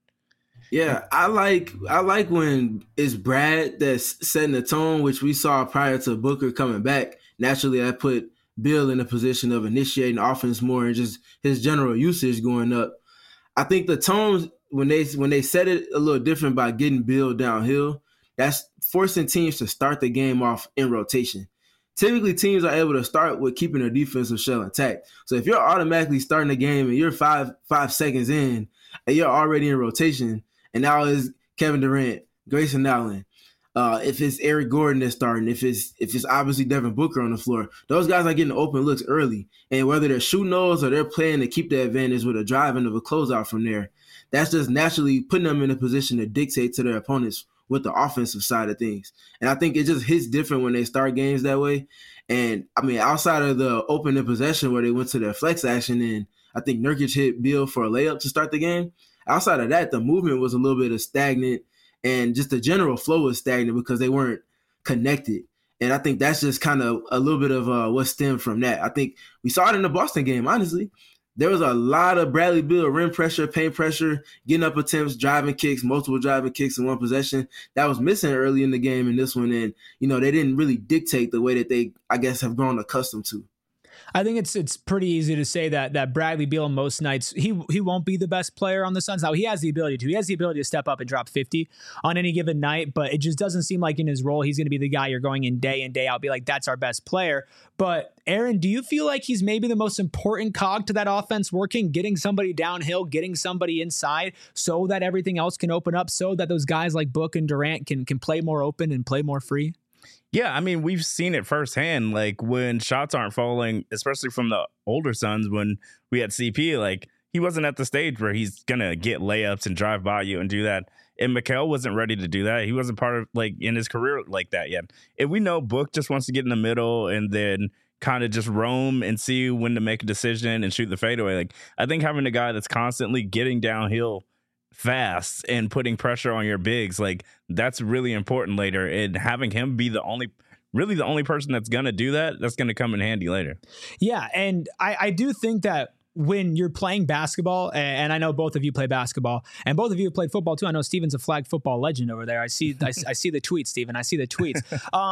Yeah, I like when it's Brad that's setting the tone, which we saw prior to Booker coming back. Naturally, I put Bill in a position of initiating offense more and just his general usage going up. I think the tones when they set it a little different by getting Bill downhill, that's forcing teams to start the game off in rotation. Typically, teams are able to start with keeping their defensive shell intact. So if you're automatically starting the game and you're five seconds in and you're already in rotation, and now it's Kevin Durant, Grayson Allen, if it's Eric Gordon that's starting, if it's obviously Devin Booker on the floor, those guys are getting open looks early. And whether they're shooting those or they're playing to keep the advantage with a drive and of a closeout from there, that's just naturally putting them in a position to dictate to their opponents with the offensive side of things. And I think it just hits different when they start games that way. And I mean, outside of the opening possession where they went to their flex action and I think Nurkic hit Beal for a layup to start the game, outside of that, the movement was a little bit of stagnant and just the general flow was stagnant because they weren't connected. And I think that's just kind of a little bit of what stemmed from that. I think we saw it in the Boston game, honestly. There was a lot of Bradley Beal rim pressure, paint pressure, getting up attempts, driving kicks, multiple driving kicks in one possession. That was missing early in the game in this one. And, they didn't really dictate the way that they, I guess, have grown accustomed to. I think it's pretty easy to say that Bradley Beal most nights, he won't be the best player on the Suns. Now, he has the ability to. He has the ability to step up and drop 50 on any given night, but it just doesn't seem like in his role he's going to be the guy you're going in day out, be like, that's our best player. But, Aaron, do you feel like he's maybe the most important cog to that offense working, getting somebody downhill, getting somebody inside so that everything else can open up, so that those guys like Book and Durant can play more open and play more free? Yeah, I mean, we've seen it firsthand, like when shots aren't falling, especially from the older Suns when we had CP, like he wasn't at the stage where he's going to get layups and drive by you and do that. And Mikal wasn't ready to do that. He wasn't part of like in his career like that yet. And we know Book just wants to get in the middle and then kind of just roam and see when to make a decision and shoot the fadeaway. Like I think having a guy that's constantly getting downhill fast and putting pressure on your bigs, like that's really important later, and having him be the only person that's going to do that, that's going to come in handy later. Yeah. And I do think that when you're playing basketball, and I know both of you play basketball and both of you have played football too. I know Steven's a flag football legend over there. I see the tweets, Steven. I see the tweets.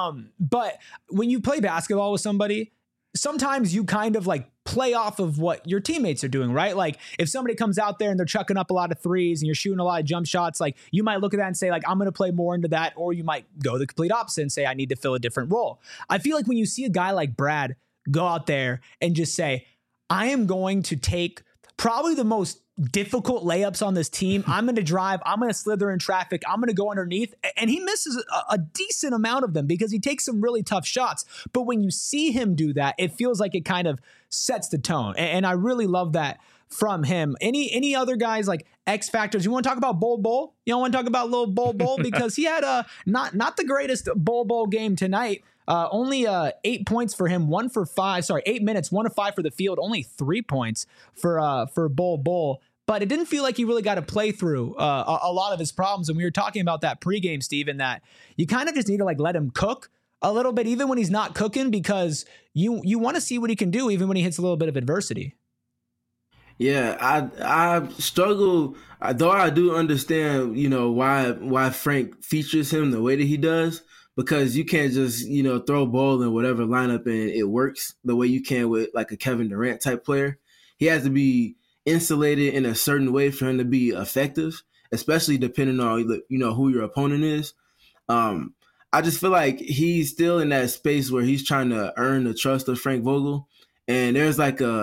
But when you play basketball with somebody, sometimes you kind of like play off of what your teammates are doing, right? Like if somebody comes out there and they're chucking up a lot of threes and you're shooting a lot of jump shots, like you might look at that and say like, I'm going to play more into that. Or you might go the complete opposite and say, I need to fill a different role. I feel like when you see a guy like Brad go out there and just say, I am going to take probably the most difficult layups on this team. I'm going to drive. I'm going to slither in traffic. I'm going to go underneath. And he misses a decent amount of them because he takes some really tough shots. But when you see him do that, it feels like it kind of sets the tone. And I really love that from him. Any other guys like X factors? You want to talk about Bol? You don't want to talk about little Bol because he had a not the greatest Bol game tonight. Only 8 points for him, 1 for 5. Sorry, 8 minutes, 1 of 5 for the field. Only 3 points for Bol. But it didn't feel like he really got to play through a lot of his problems. And we were talking about that pregame, Steven, that you kind of just need to like let him cook a little bit, even when he's not cooking, because you want to see what he can do, even when he hits a little bit of adversity. Yeah, I struggle, though I do understand, why Frank features him the way that he does, because you can't just, throw ball in whatever lineup and it works the way you can with like a Kevin Durant type player. He has to be insulated in a certain way for him to be effective, especially depending on, who your opponent is. I just feel like he's still in that space where he's trying to earn the trust of Frank Vogel. And there's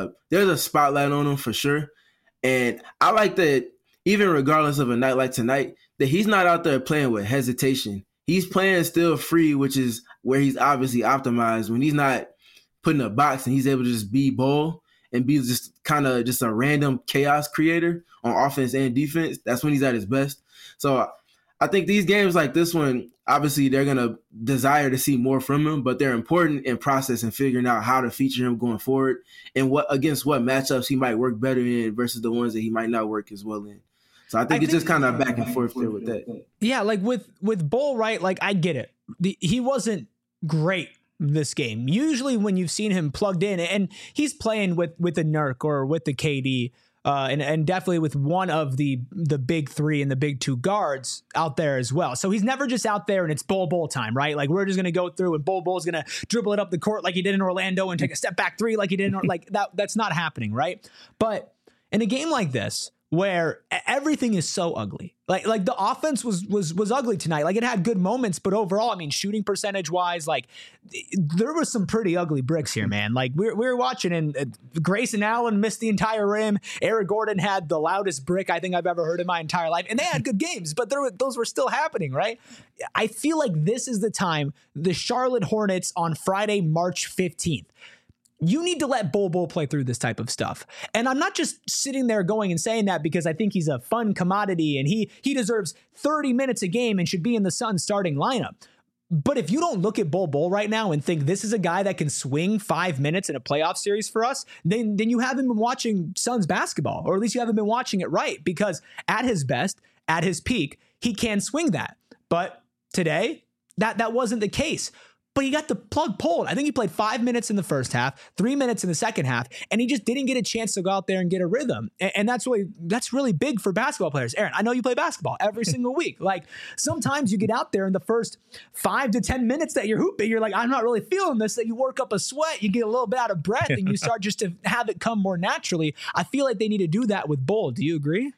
a spotlight on him for sure. And I like that even regardless of a night like tonight, that he's not out there playing with hesitation. He's playing still free, which is where he's obviously optimized. When he's not put in a box and he's able to just be ball and be just kind of just a random chaos creator on offense and defense, that's when he's at his best. So I think these games like this one, obviously they're going to desire to see more from him, but they're important in process and figuring out how to feature him going forward and against what matchups he might work better in versus the ones that he might not work as well in. So I think it's just kind of back and forth there with that. Yeah, like with Bull, right? Like I get it. He wasn't great this game. Usually when you've seen him plugged in, and he's playing with the Nurk or with the KD, and definitely with one of the big three and the big two guards out there as well. So he's never just out there and it's Bull time, right? Like we're just going to go through and Bull's going to dribble it up the court like he did in Orlando and take a step back three like he did in like that's not happening, right? But in a game like this, where everything is so ugly. Like the offense was ugly tonight. Like it had good moments, but overall, I mean, shooting percentage wise, like there was some pretty ugly bricks here, man. Like we were watching and Grayson Allen missed the entire rim. Eric Gordon had the loudest brick I think I've ever heard in my entire life. And they had good games, but those were still happening, right? I feel like this is the time the Charlotte Hornets on Friday, March 15th. You need to let Bull play through this type of stuff. And I'm not just sitting there going and saying that because I think he's a fun commodity and he deserves 30 minutes a game and should be in the Suns starting lineup. But if you don't look at Bull right now and think this is a guy that can swing 5 minutes in a playoff series for us, then you haven't been watching Suns basketball, or at least you haven't been watching it right, because at his best, at his peak, he can swing that. But today, that wasn't the case. But he got the plug pulled. I think he played 5 minutes in the first half, 3 minutes in the second half, and he just didn't get a chance to go out there and get a rhythm. And that's really big for basketball players. Aaron, I know you play basketball every single week. Like sometimes you get out there in the first 5 to 10 minutes that you're hooping, you're like, I'm not really feeling this. That you work up a sweat, you get a little bit out of breath, and you start just to have it come more naturally. I feel like they need to do that with Bull. Do you agree?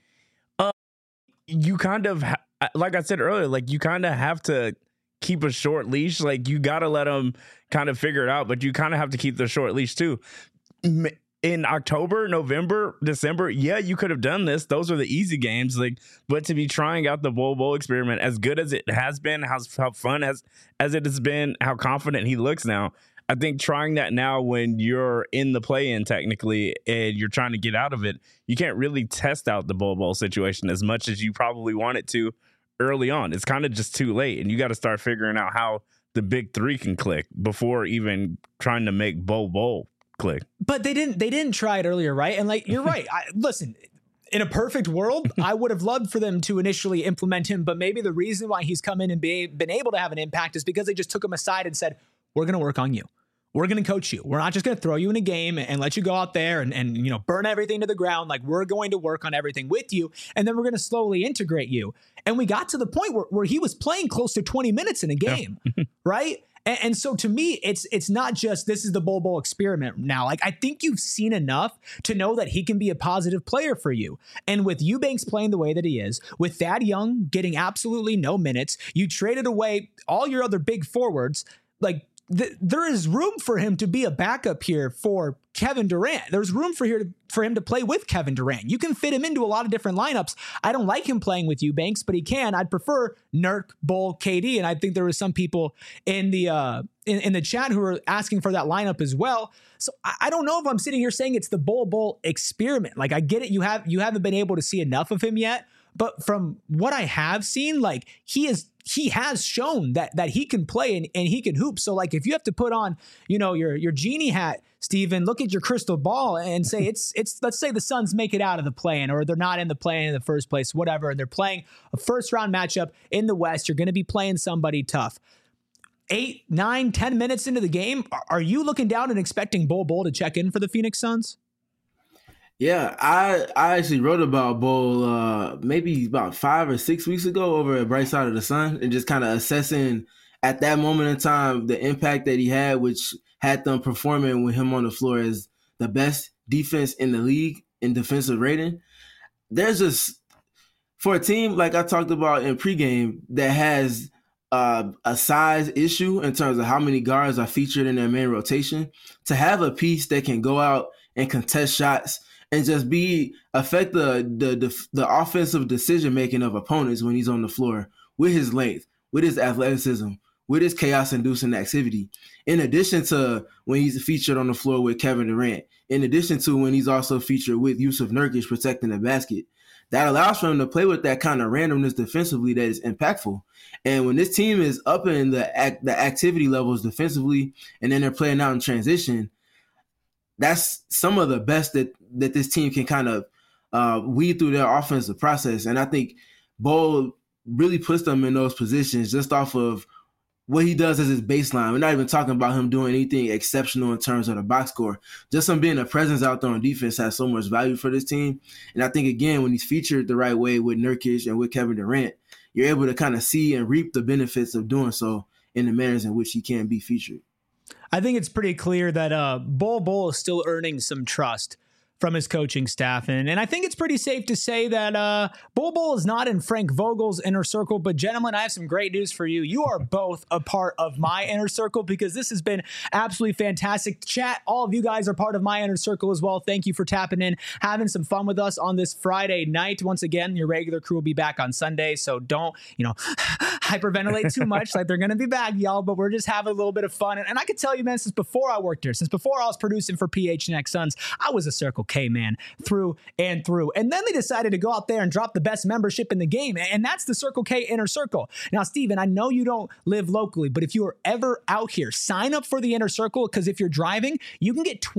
You kind of, like I said earlier, like you kind of have to keep a short leash. Like you got to let them kind of figure it out, but you kind of have to keep the short leash too. In October, November, December, yeah, you could have done this. Those are the easy games. Like, but to be trying out the Bull experiment, as good as it has been, how fun as it has been, how confident he looks now, I think trying that now when you're in the play-in technically and you're trying to get out of it, you can't really test out the Bull situation as much as you probably want it to early on. It's kind of just too late, and you got to start figuring out how the big three can click before even trying to make Bull click. But they didn't try it earlier, right? And like you're right. Listen, in a perfect world, I would have loved for them to initially implement him, but maybe the reason why he's come in and been able to have an impact is because they just took him aside and said, we're going to work on you. We're going to coach you. We're not just going to throw you in a game and let you go out there and burn everything to the ground. Like we're going to work on everything with you, and then we're going to slowly integrate you. And we got to the point where he was playing close to 20 minutes in a game, right? And so to me, it's not just this is the Bull experiment now. Like I think you've seen enough to know that he can be a positive player for you. And with Eubanks playing the way that he is, with Thad Young getting absolutely no minutes, you traded away all your other big forwards. Like there is room for him to be a backup here for Kevin Durant. There's room for him to play with Kevin Durant. You can fit him into a lot of different lineups. I don't like him playing with Eubanks, but he can. I'd prefer Nurk, Bull, KD, and I think there were some people in the in the chat who were asking for that lineup as well. So I don't know if I'm sitting here saying it's the Bull experiment. Like I get it, you haven't been able to see enough of him yet, but from what I have seen, like he has shown that he can play and he can hoop. So like if you have to put on, your genie hat, Steven, look at your crystal ball and say it's let's say the Suns make it out of the play-in, or they're not in the play-in in the first place, whatever, and they're playing a first round matchup in the West. You're going to be playing somebody tough. 8, 9, 10 minutes into the game, are you looking down and expecting Bol Bol to check in for the Phoenix Suns? Yeah, I actually wrote about Bol maybe about 5 or 6 weeks ago over at Bright Side of the Sun, and just kind of assessing at that moment in time the impact that he had, which had them performing with him on the floor as the best defense in the league in defensive rating. There's just, for a team like I talked about in pregame that has a size issue in terms of how many guards are featured in their main rotation, to have a piece that can go out and contest shots and just affect the offensive decision making of opponents when he's on the floor with his length, with his athleticism, with his chaos-inducing activity, in addition to when he's featured on the floor with Kevin Durant, in addition to when he's also featured with Yusuf Nurkic protecting the basket. That allows for him to play with that kind of randomness defensively that is impactful. And when this team is up in the activity levels defensively, and then they're playing out in transition, that's some of the best that this team can kind of weed through their offensive process. And I think Bol really puts them in those positions just off of what he does as his baseline. We're not even talking about him doing anything exceptional in terms of the box score. Just him being a presence out there on defense has so much value for this team. And I think, again, when he's featured the right way with Nurkic and with Kevin Durant, you're able to kind of see and reap the benefits of doing so in the manners in which he can be featured. I think it's pretty clear that Bol Bol is still earning some trust from his coaching staff. And I think it's pretty safe to say that Bol Bol is not in Frank Vogel's inner circle. But gentlemen, I have some great news for you. You are both a part of my inner circle, because this has been absolutely fantastic. Chat, all of you guys are part of my inner circle as well. Thank you for tapping in, having some fun with us on this Friday night. Once again, your regular crew will be back on Sunday, so don't, hyperventilate too much. Like, they're going to be back, y'all, but we're just having a little bit of fun. And I could tell you, man, since before I worked here, since before I was producing for PHNX Suns, I was a Circle K man through and through. And then they decided to go out there and drop the best membership in the game, and that's the Circle K Inner Circle. Now, Steven, I know you don't live locally, but if you are ever out here, sign up for the Inner Circle, because if you're driving, you can get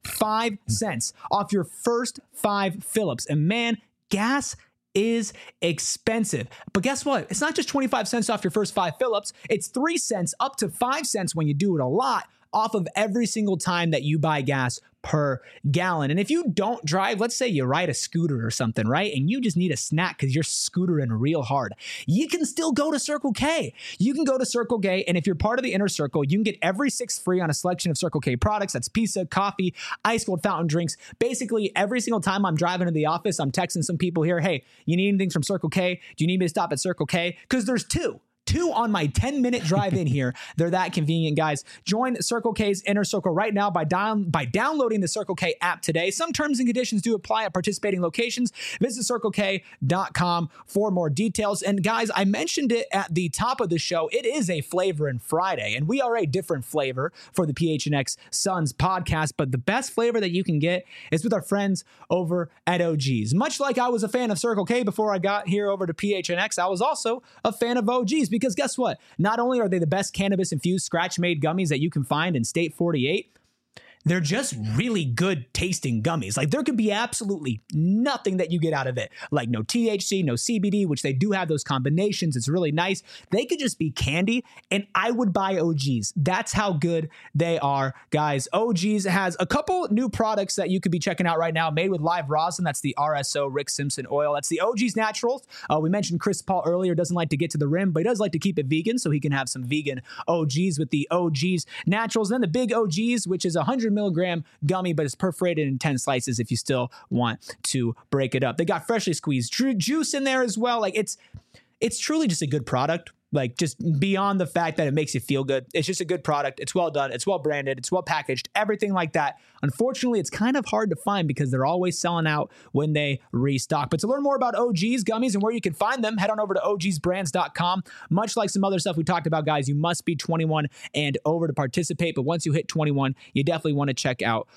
25 cents off your first 5 fill-ups. And man, gas is expensive. But guess what? It's not just 25 cents off your first 5 fill-ups. It's 3 cents up to 5 cents when you do it a lot off of every single time that you buy gas per gallon. And if you don't drive, let's say you ride a scooter or something, right? And you just need a snack because you're scootering real hard, you can still go to Circle K. You can go to Circle K, and if you're part of the Inner Circle, you can get every 6 free on a selection of Circle K products. That's pizza, coffee, ice cold fountain drinks. Basically, every single time I'm driving to the office, I'm texting some people here, hey, you need anything from Circle K? Do you need me to stop at Circle K? Because there's two on my 10-minute drive in here. They're that convenient, guys. Join Circle K's Inner Circle right now by downloading the Circle K app today. Some terms and conditions do apply at participating locations. Visit CircleK.com for more details. And guys, I mentioned it at the top of the show. It is a Flavor in Friday, and we are a different flavor for the PHNX Suns podcast. But the best flavor that you can get is with our friends over at OG's. Much like I was a fan of Circle K before I got here over to PHNX, I was also a fan of OG's. Because guess what? Not only are they the best cannabis-infused scratch-made gummies that you can find in State 48, they're just really good tasting gummies. Like, there could be absolutely nothing that you get out of it. Like, no THC, no CBD, which they do have those combinations. It's really nice. They could just be candy, and I would buy OG's. That's how good they are, guys. OG's has a couple new products that you could be checking out right now, made with live rosin. That's the RSO Rick Simpson oil. That's the OG's Naturals. We mentioned Chris Paul earlier doesn't like to get to the rim, but he does like to keep it vegan, so he can have some vegan OG's with the OG's Naturals. And then the Big OG's, which is 100 milligram gummy, but it's perforated in 10 slices if you still want to break it up. They got freshly squeezed juice in there as well. Like, it's truly just a good product. Like, just beyond the fact that it makes you feel good, it's just a good product. It's well done. It's well branded. It's well packaged. Everything like that. Unfortunately, it's kind of hard to find because they're always selling out when they restock. But to learn more about OG's gummies and where you can find them, head on over to ogsbrands.com. Much like some other stuff we talked about, guys, you must be 21 and over to participate. But once you hit 21, you definitely want to check out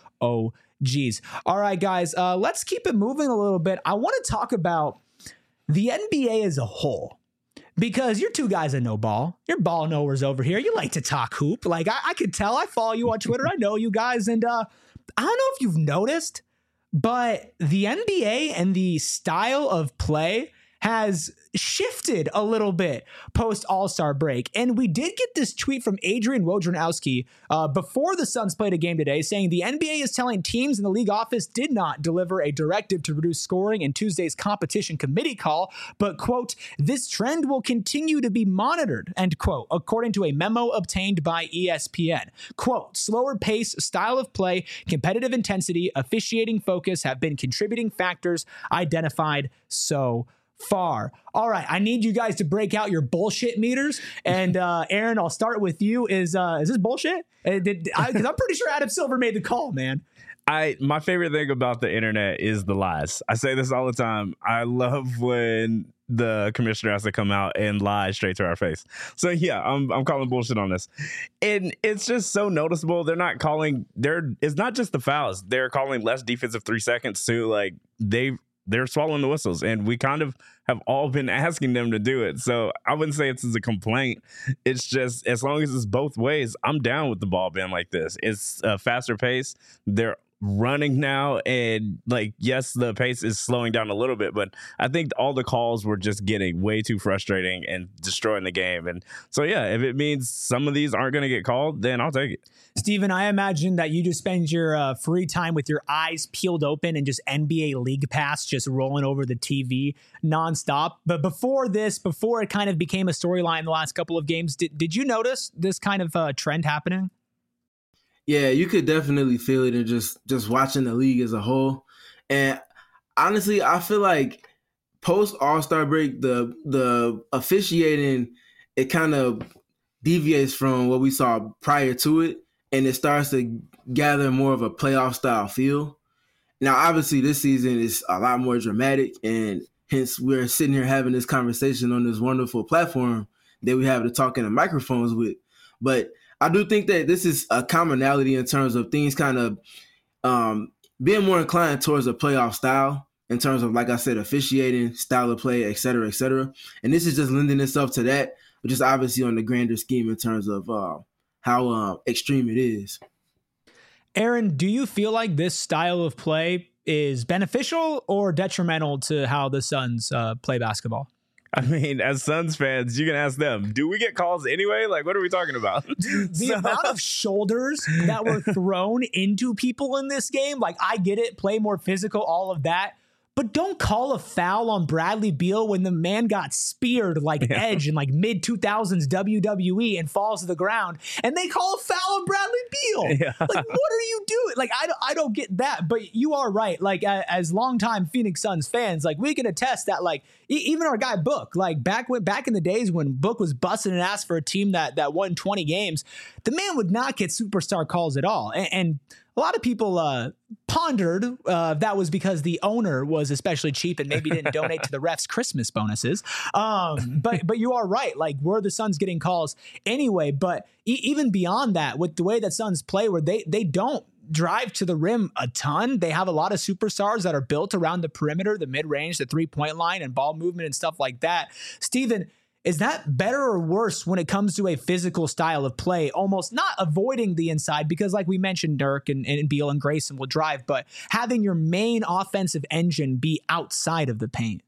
OG's. All right, guys, let's keep it moving a little bit. I want to talk about the NBA as a whole. Because you're two guys that know ball. You're ball knowers over here. You like to talk hoop. Like, I could tell. I follow you on Twitter. I know you guys. And I don't know if you've noticed, but the NBA and the style of play has shifted a little bit post All-Star break. And we did get this tweet from Adrian Wojnarowski before the Suns played a game today saying the NBA is telling teams in the league office did not deliver a directive to reduce scoring in Tuesday's competition committee call, but, quote, this trend will continue to be monitored, end quote, according to a memo obtained by ESPN. Quote, slower pace, style of play, competitive intensity, officiating focus have been contributing factors identified so far. All right, I need you guys to break out your bullshit meters. And Aaron, I'll start with you. Is this bullshit? Because I'm pretty sure Adam Silver made the call, man. My favorite thing about the internet is the lies. I say this all the time. I love when the commissioner has to come out and lie straight to our face. So yeah, I'm calling bullshit on this. And it's just so noticeable. They're not calling it's not just the fouls. They're calling less defensive 3 seconds too. Like they're swallowing the whistles, and we kind of have all been asking them to do it. So I wouldn't say it's a complaint. It's just, as long as it's both ways, I'm down with the ball being like this. It's a faster pace. They're running now, and like, yes, the pace is slowing down a little bit, but I think all the calls were just getting way too frustrating and destroying the game. And so yeah, if it means some of these aren't going to get called, then I'll take it. Steven, I imagine that you just spend your free time with your eyes peeled open and just NBA League Pass just rolling over the TV nonstop. But before it kind of became a storyline the last couple of games, did you notice this kind of trend happening? Yeah, you could definitely feel it in just watching the league as a whole. And honestly, I feel like post All-Star break, the officiating, it kind of deviates from what we saw prior to it, and it starts to gather more of a playoff style feel. Now, obviously, this season is a lot more dramatic, and hence we're sitting here having this conversation on this wonderful platform that we have to talk in the microphones with. But I do think that this is a commonality in terms of things kind of being more inclined towards a playoff style in terms of, like I said, officiating, style of play, et cetera, et cetera. And this is just lending itself to that, which is obviously on the grander scheme in terms of how extreme it is. Aaron, do you feel like this style of play is beneficial or detrimental to how the Suns play basketball? I mean, as Suns fans, you can ask them, do we get calls anyway? Like, what are we talking about? The amount of shoulders that were thrown into people in this game, like, I get it, play more physical, all of that. But don't call a foul on Bradley Beal when the man got speared like Edge in like mid-2000s WWE and falls to the ground, and they call a foul on Bradley Beal. Yeah. Like, what are you doing? Like, I don't get that. But you are right. Like, as longtime Phoenix Suns fans, like, we can attest that, like, even our guy Book, like back in the days when Book was busting an ass for a team that won 20 games, the man would not get superstar calls at all. And a lot of people pondered that was because the owner was especially cheap and maybe didn't donate to the refs' Christmas bonuses. But you are right. Like, were the Suns getting calls anyway? But even beyond that, with the way that Suns play, where they don't drive to the rim a ton, they have a lot of superstars that are built around the perimeter, the mid-range, the three-point line, and ball movement and stuff like that. Steven, is that better or worse when it comes to a physical style of play, almost not avoiding the inside because, like we mentioned, Dirk and Beal and Grayson will drive, but having your main offensive engine be outside of the paint?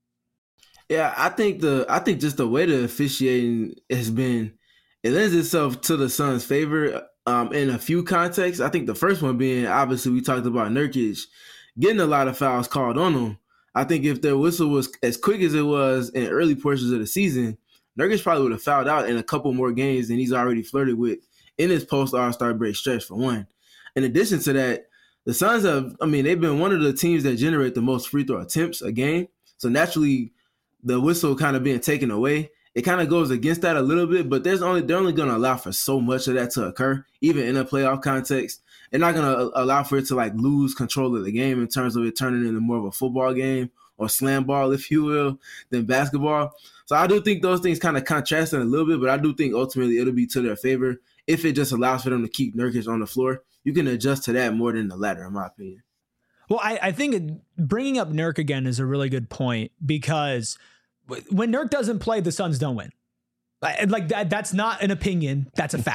Yeah, I think just the way the officiating has been, it lends itself to the Suns' favor in a few contexts. I think the first one being, obviously, we talked about Nurkic getting a lot of fouls called on him. I think if their whistle was as quick as it was in early portions of the season, Nurkic probably would have fouled out in a couple more games than he's already flirted with in his post-All-Star break stretch, for one. In addition to that, the Suns they've been one of the teams that generate the most free throw attempts a game. So naturally, the whistle kind of being taken away, it kind of goes against that a little bit, but they're only going to allow for so much of that to occur, even in a playoff context. They're not going to allow for it to like lose control of the game in terms of it turning into more of a football game or slam ball, if you will, than basketball. So I do think those things kind of contrast a little bit, but I do think ultimately it'll be to their favor if it just allows for them to keep Nurkic on the floor. You can adjust to that more than the latter, in my opinion. Well, I think bringing up Nurk again is a really good point because when Nurk doesn't play, the Suns don't win. Like that's not an opinion. That's a fact.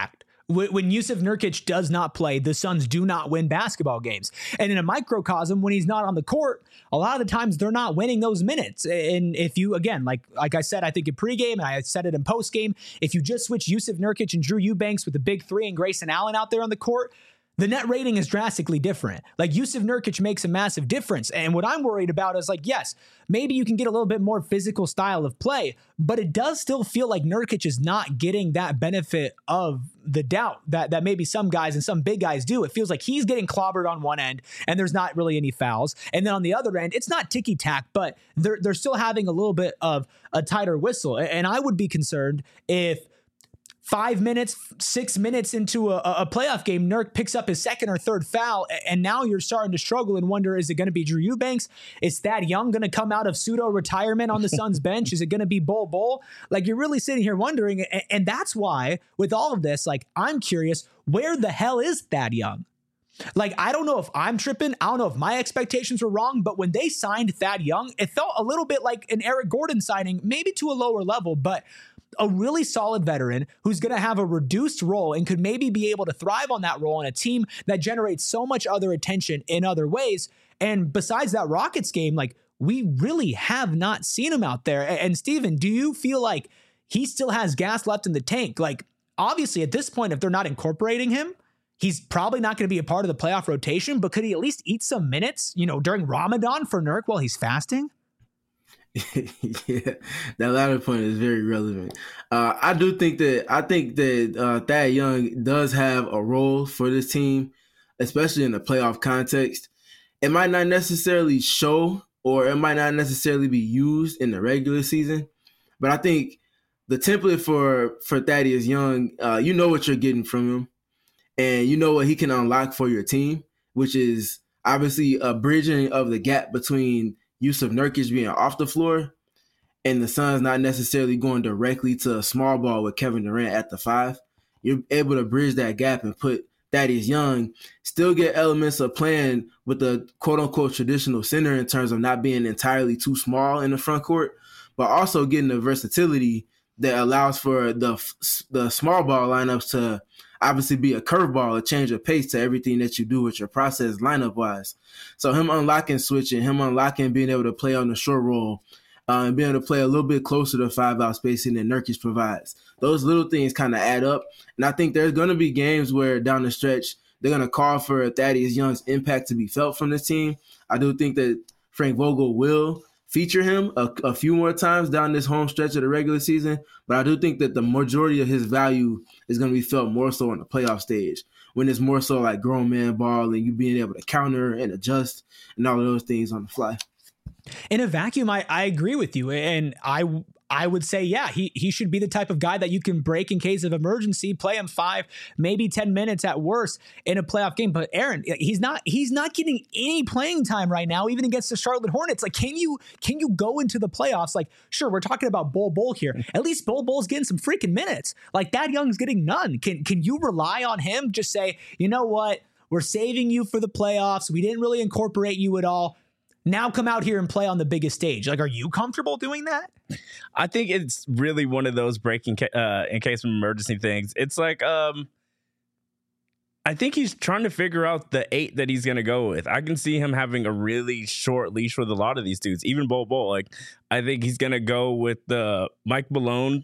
When Yusuf Nurkic does not play, the Suns do not win basketball games. And in a microcosm, when he's not on the court, a lot of the times they're not winning those minutes. And if you, again, like I said, I think in pregame, and I said it in postgame, if you just switch Yusuf Nurkic and Drew Eubanks with the big three and Grayson Allen out there on the court, the net rating is drastically different. Like Yusuf Nurkic makes a massive difference. And what I'm worried about is like, yes, maybe you can get a little bit more physical style of play, but it does still feel like Nurkic is not getting that benefit of the doubt that maybe some guys and some big guys do. It feels like he's getting clobbered on one end and there's not really any fouls. And then on the other end, it's not ticky-tack, but they're still having a little bit of a tighter whistle. And I would be concerned if 5 minutes, 6 minutes into a playoff game, Nurk picks up his second or third foul, and now you're starting to struggle and wonder, is it going to be Drew Eubanks? Is Thad Young going to come out of pseudo-retirement on the Suns bench? Is it going to be Bol? Like, you're really sitting here wondering, and that's why, with all of this, like, I'm curious, where the hell is Thad Young? Like, I don't know if I'm tripping. I don't know if my expectations were wrong, but when they signed Thad Young, it felt a little bit like an Eric Gordon signing, maybe to a lower level, but a really solid veteran who's going to have a reduced role and could maybe be able to thrive on that role in a team that generates so much other attention in other ways. And besides that Rockets game, like, we really have not seen him out there. And Steven, do you feel like he still has gas left in the tank? Like, obviously at this point, if they're not incorporating him, he's probably not going to be a part of the playoff rotation, but could he at least eat some minutes, during Ramadan for Nurk while he's fasting? Yeah, that latter point is very relevant. I think that Thad Young does have a role for this team, especially in the playoff context. It might not necessarily show, or it might not necessarily be used in the regular season, but I think the template for Thaddeus Young, you know what you're getting from him, and you know what he can unlock for your team, which is obviously a bridging of the gap between Yusuf Nurkic being off the floor and the Suns not necessarily going directly to a small ball with Kevin Durant at the 5. You're able to bridge that gap and put Thaddeus Young, still get elements of playing with the quote-unquote traditional center in terms of not being entirely too small in the front court, but also getting the versatility that allows for the small ball lineups to obviously be a curveball, a change of pace to everything that you do with your process lineup-wise. So him unlocking switching, him unlocking being able to play on the short roll, and being able to play a little bit closer to 5-out spacing than Nurkic provides. Those little things kind of add up. And I think there's going to be games where down the stretch, they're going to call for Thaddeus Young's impact to be felt from this team. I do think that Frank Vogel will feature him a few more times down this home stretch of the regular season, but I do think that the majority of his value is going to be felt more so on the playoff stage, when it's more so like grown man ball and you being able to counter and adjust and all of those things on the fly. In a vacuum, I agree with you. And I would say, yeah, he should be the type of guy that you can break in case of emergency, play him 5, maybe 10 minutes at worst in a playoff game. But Aaron, he's not getting any playing time right now, even against the Charlotte Hornets. Like, can you go into the playoffs? Like, sure, we're talking about Bol here. At least Bol's getting some freaking minutes. Like, Thad Young's getting none. Can you rely on him? Just say, you know what? We're saving you for the playoffs. We didn't really incorporate you at all. Now come out here and play on the biggest stage. Like, are you comfortable doing that? I think it's really one of those breaking in case of emergency things. It's like, I think he's trying to figure out the 8 that he's going to go with. I can see him having a really short leash with a lot of these dudes, even Bol. Like, I think he's going to go with the Mike Malone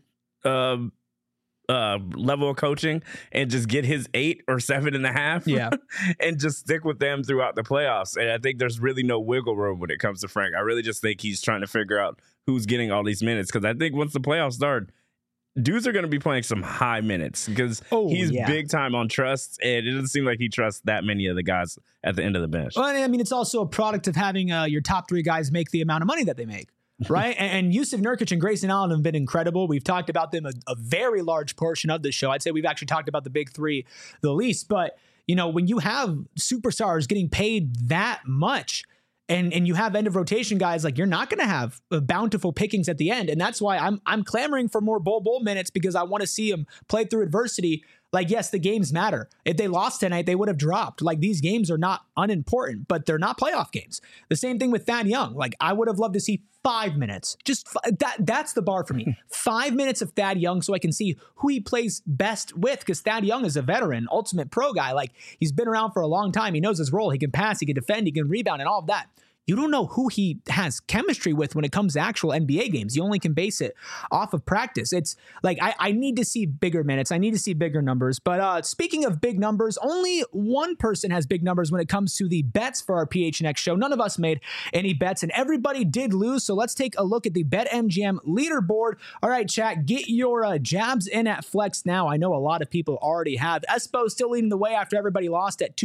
level of coaching and just get his 8 or 7.5, yeah, and just stick with them throughout the playoffs. And I think there's really no wiggle room when it comes to Frank. I really just think he's trying to figure out who's getting all these minutes, because I think once the playoffs start, dudes are going to be playing some high minutes because he's big time on trust, and it doesn't seem like he trusts that many of the guys at the end of the bench. Well, I mean, it's also a product of having your top 3 guys make the amount of money that they make. Right. And Yusuf Nurkic and Grayson Allen have been incredible. We've talked about them a very large portion of the show. I'd say we've actually talked about the big 3 the least. But, when you have superstars getting paid that much and you have end of rotation guys, like, you're not going to have bountiful pickings at the end. And that's why I'm clamoring for more Bol minutes, because I want to see him play through adversity. Like, yes, the games matter. If they lost tonight, they would have dropped. Like, these games are not unimportant, but they're not playoff games. The same thing with Thad Young. Like, I would have loved to see 5 minutes. That's the bar for me. 5 minutes of Thad Young so I can see who he plays best with, because Thad Young is a veteran, ultimate pro guy. Like, he's been around for a long time. He knows his role. He can pass, he can defend, he can rebound, and all of that. You don't know who he has chemistry with when it comes to actual NBA games. You only can base it off of practice. It's like, I need to see bigger minutes. I need to see bigger numbers. But speaking of big numbers, only one person has big numbers when it comes to the bets for our PHNX show. None of us made any bets, and everybody did lose. So let's take a look at the BetMGM leaderboard. All right, chat, get your jabs in at Flex now. I know a lot of people already have. Espo still leading the way after everybody lost at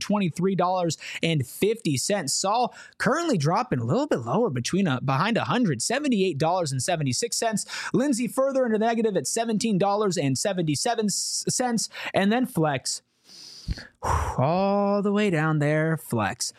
$223.50. Saul currently dropping a little bit lower behind $178.76. Lindsay further into the negative at $17.77. And then Flex, all the way down there, Flex,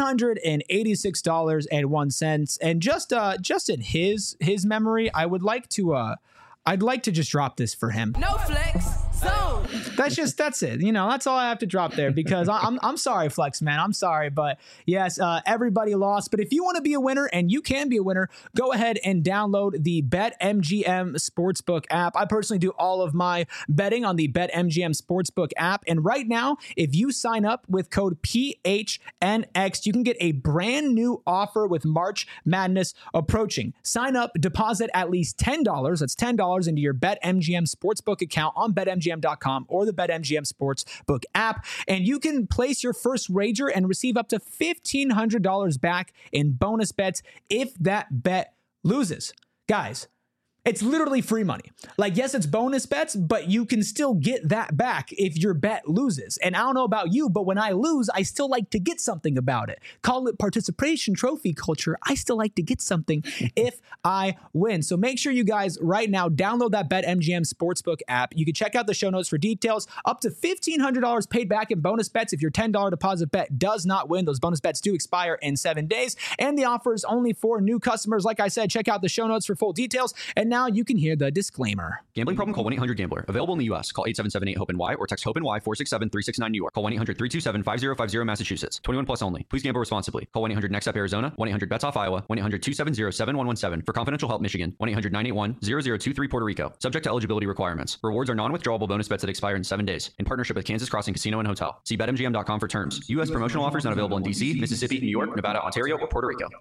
$186.01. And just in his memory, I'd like to just drop this for him. No flex zone. That's it. You know, that's all I have to drop there, because I'm sorry, Flex, man. I'm sorry. But yes, everybody lost. But if you want to be a winner, and you can be a winner, go ahead and download the BetMGM Sportsbook app. I personally do all of my betting on the BetMGM Sportsbook app. And right now, if you sign up with code PHNX, you can get a brand new offer with March Madness approaching. Sign up, deposit at least $10. That's $10 into your BetMGM Sportsbook account on BetMGM.com or the BetMGM Sportsbook app, and you can place your first wager and receive up to $1,500 back in bonus bets if that bet loses. Guys, it's literally free money. Like, yes, it's bonus bets, but you can still get that back if your bet loses. And I don't know about you, but when I lose, I still like to get something about it. Call it participation trophy culture. I still like to get something if I win. So make sure you guys right now download that BetMGM Sportsbook app. You can check out the show notes for details. Up to $1,500 paid back in bonus bets if your $10 deposit bet does not win. Those bonus bets do expire in 7 days, and the offer is only for new customers. Like I said, check out the show notes for full details. And now you can hear the disclaimer. Gambling problem? Call 1-800-GAMBLER. Available in the U.S. Call 877-8-HOPE-NY or text HOPE-NY 467-369 New York. Call 1-800-327-5050 Massachusetts. 21 plus only. Please gamble responsibly. Call 1-800-NEXT-UP Arizona. 1-800-BETS-OFF Iowa. 1-800-270-7117. For confidential help, Michigan. 1-800-981-0023 Puerto Rico. Subject to eligibility requirements. Rewards are non-withdrawable bonus bets that expire in 7 days. In partnership with Kansas Crossing Casino and Hotel. See BetMGM.com for terms. U.S. promotional offers not available in D.C., Mississippi, New York, Nevada, Ontario, or Puerto Rico.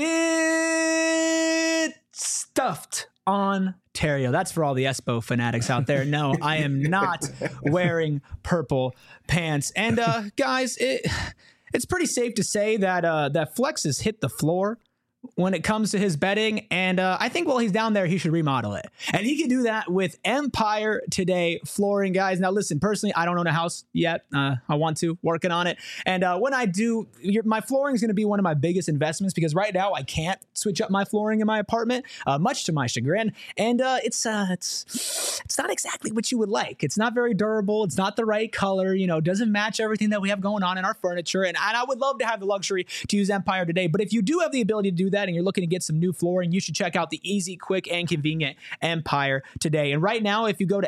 Get stuffed, Ontario. That's for all the Espo fanatics out there. No, I am not wearing purple pants. And guys, it's pretty safe to say that Flex has hit the floor when it comes to his betting. And I think while he's down there, he should remodel it. And he can do that with Empire Today flooring, guys. Now, listen, personally, I don't own a house yet. I want to, working on it. And when I do, my flooring is going to be one of my biggest investments, because right now I can't switch up my flooring in my apartment, much to my chagrin. And it's not exactly what you would like. It's not very durable. It's not the right color, doesn't match everything that we have going on in our furniture. And I would love to have the luxury to use Empire Today. But if you do have the ability to do that and you're looking to get some new flooring, you should check out the easy, quick, and convenient Empire Today. And right now, if you go to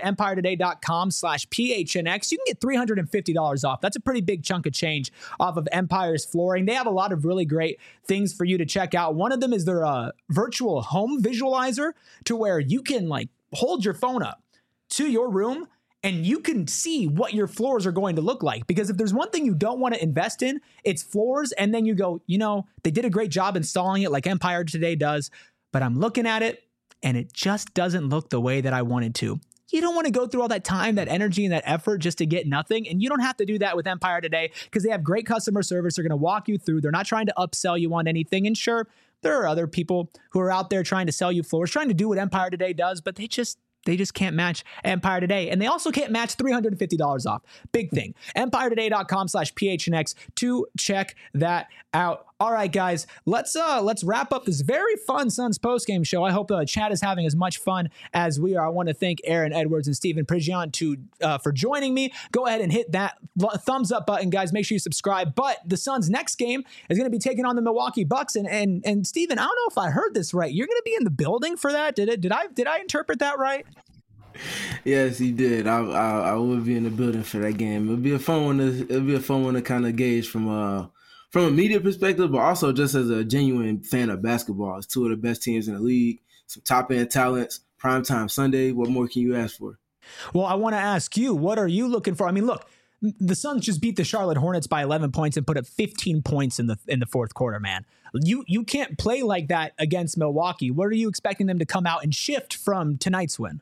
empiretoday.com/PHNX, you can get $350 off. That's a pretty big chunk of change off of Empire's flooring. They have a lot of really great things for you to check out. One of them is their virtual home visualizer, to where you can hold your phone up to your room and you can see what your floors are going to look like. Because if there's one thing you don't want to invest in, it's floors. And then you go, they did a great job installing it like Empire Today does, but I'm looking at it and it just doesn't look the way that I wanted to. You don't want to go through all that time, that energy, and that effort just to get nothing. And you don't have to do that with Empire Today, because they have great customer service. They're going to walk you through. They're not trying to upsell you on anything. And sure, there are other people who are out there trying to sell you floors, trying to do what Empire Today does, but they just can't match Empire Today. And they also can't match $350 off. Big thing. EmpireToday.com/PHNX to check that out. All right, guys, let's wrap up this very fun Suns postgame show. I hope chat is having as much fun as we are. I want to thank Aaron Edwards and Stephen Prigion for joining me. Go ahead and hit that thumbs up button, guys. Make sure you subscribe. But the Suns' next game is going to be taking on the Milwaukee Bucks. And Stephen, I don't know if I heard this right. You're going to be in the building for that. Did I interpret that right? Yes, he did. I will be in the building for that game. It'll be a fun one. It'll be a fun one to kind of gauge from a media perspective, but also just as a genuine fan of basketball. It's two of the best teams in the league, some top end talents. Primetime Sunday. What more can you ask for? Well, I want to ask you, what are you looking for? I mean, look, the Suns just beat the Charlotte Hornets by 11 points and put up 15 points in the fourth quarter, man. You can't play like that against Milwaukee. What are you expecting them to come out and shift from tonight's win?